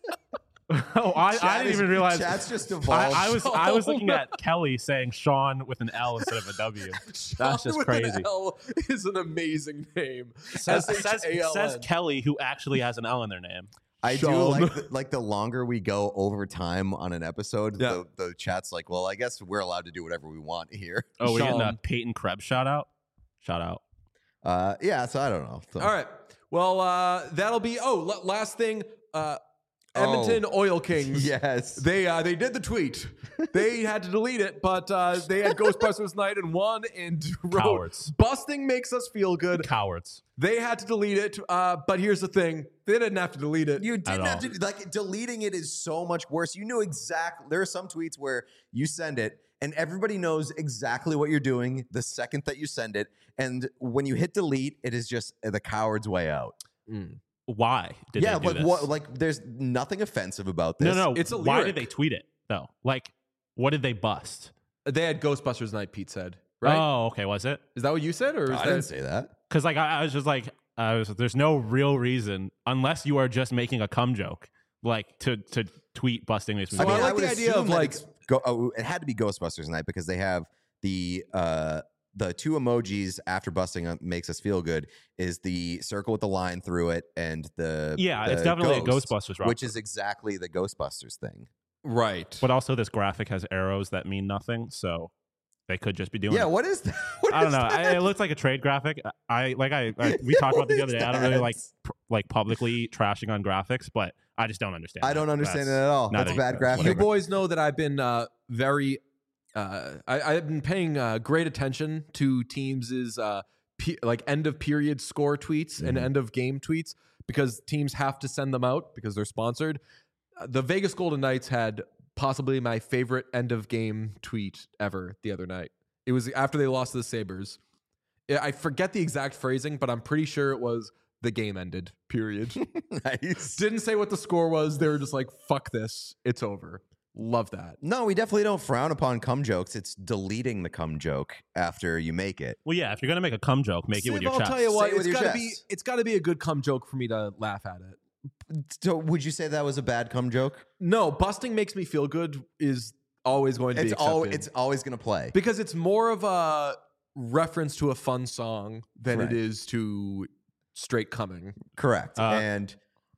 Oh, I, I Chat didn't is- even realize. Chat's just I, evolved. I was I was Oh, looking no. at Kelly saying Sean with an L instead of a W. That's just With an crazy. L is an amazing name. Says, says, S H A L N. says Kelly, who actually has an L in their name. I do Sean. like the, like the longer we go over time on an episode, Yeah. the, the chat's like, well, I guess we're allowed to do whatever we want here. Oh, we're getting a Sean. Peyton Krebs shout out. Shout out. Uh, yeah, so I don't know. So- All right. Well, uh, that'll be. Oh, l- last thing. Uh, Oh. Edmonton Oil Kings. Yes. They uh, they did the tweet. They had to delete it, but uh, they had Ghostbusters night and won and wrote, Cowards. busting makes us feel good. Cowards. They had to delete it, uh, but here's the thing: they didn't have to delete it. You At didn't have all. to like deleting it is so much worse. You knew exactly. There are some tweets where you send it and everybody knows exactly what you're doing the second that you send it, and when you hit delete, it is just the coward's way out. Mm. Why did yeah, they do like this? what? Like, there's nothing offensive about this. no, no. It's a Why lyric. did they tweet it though? Like, what did they bust? They had Ghostbusters night. Pete said, right? Oh, okay. Was it? Is that what you said, or is I that? didn't say that. Because like I, I was just like, I was. There's no real reason unless you are just making a cum joke, like to to tweet busting makes me. So feel I good. like would the idea assume of, that like- it's go, oh, it had to be Ghostbusters night because they have the uh the two emojis after busting up makes us feel good is the circle with the line through it and the yeah, the it's definitely ghost, a Ghostbusters reference. which is exactly the Ghostbusters thing. Right. But also, this graphic has arrows that mean nothing, so they could just be doing. Yeah, it. what is that? What I don't is know. that? I, it looks like a trade graphic. I like. I, I we talked about this the What other is day. I don't really that? like pr- like publicly trashing on graphics, but I just don't understand. I that. don't understand it That's- at all. not That's a a- bad graphic. You boys know that I've been uh, very. Uh, I, I've been paying uh, great attention to teams' uh, pe- like end of period score tweets and Mhm. end of game tweets because teams have to send them out because they're sponsored. Uh, the Vegas Golden Knights had possibly my favorite end of game tweet ever the other night. It was after they lost to the Sabres. I I forget the exact phrasing, but I'm pretty sure it was the game ended. Period. Nice. Didn't say what the score was. They were just like, "Fuck this, it's over." Love that. No, we definitely don't frown upon cum jokes. It's deleting the cum joke after you make it. Well, yeah. If you're gonna make a cum joke, make it with Siv, your I'll chest. tell you what, Say it with it's your gotta be chest. it's gotta be a good cum joke for me to laugh at it. So, would you say that was a bad cum joke? No, busting makes me feel good is always going to It's be all. accepted. It's always going to play. because it's more of a reference to a fun song than Right. it is to straight coming. Correct. Uh, and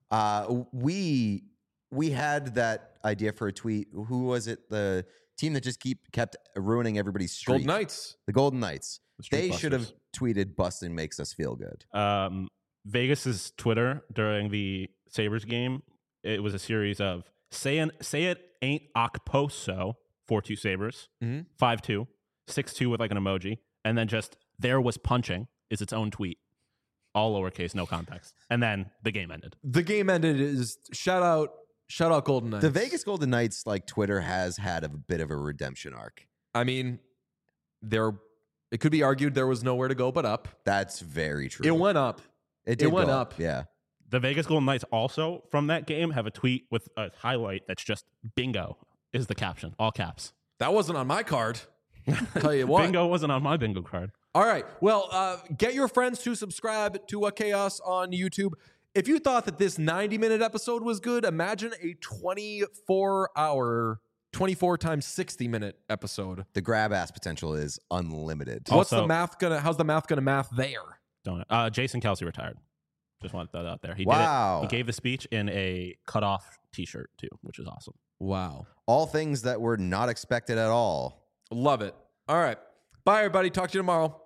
uh, we we had that idea for a tweet. Who was it? The team that just keep kept ruining everybody's streak. Golden Knights. The Golden Knights. The Street They should have Busters. tweeted "Bustin' makes us feel good." Um, Vegas's Twitter during the Sabres game, it was a series of say an, say it ain't Okposo, four two Sabres, Mhm. five two, six two with like an emoji, and then just there was punching is its own tweet, all lowercase, no context, and then the game ended. The game ended is shout out shout out Golden Knights. The Vegas Golden Knights, like Twitter, has had a bit of a redemption arc. I mean, they're It could be argued there was nowhere to go but up. That's very true. It went up. It, did went go up. Yeah. The Vegas Golden Knights also from that game have a tweet with a highlight that's just bingo is the caption, all caps. That wasn't on my card. Tell you what. Bingo wasn't on my bingo card. All right. Well, uh, get your friends to subscribe to uh, Chaos on YouTube. If you thought that this ninety minute episode was good, imagine a twenty-four hour, twenty-four times sixty minute episode. The grab ass potential is unlimited. What's Also- the math gonna? How's the math gonna math there? Don't uh, Jason Kelsey retired. Just want that out there. He Wow. did it. He gave the speech in a cutoff T-shirt too, which is awesome. Wow. All things that were not expected at all. Love it. All right. Bye, everybody. Talk to you tomorrow.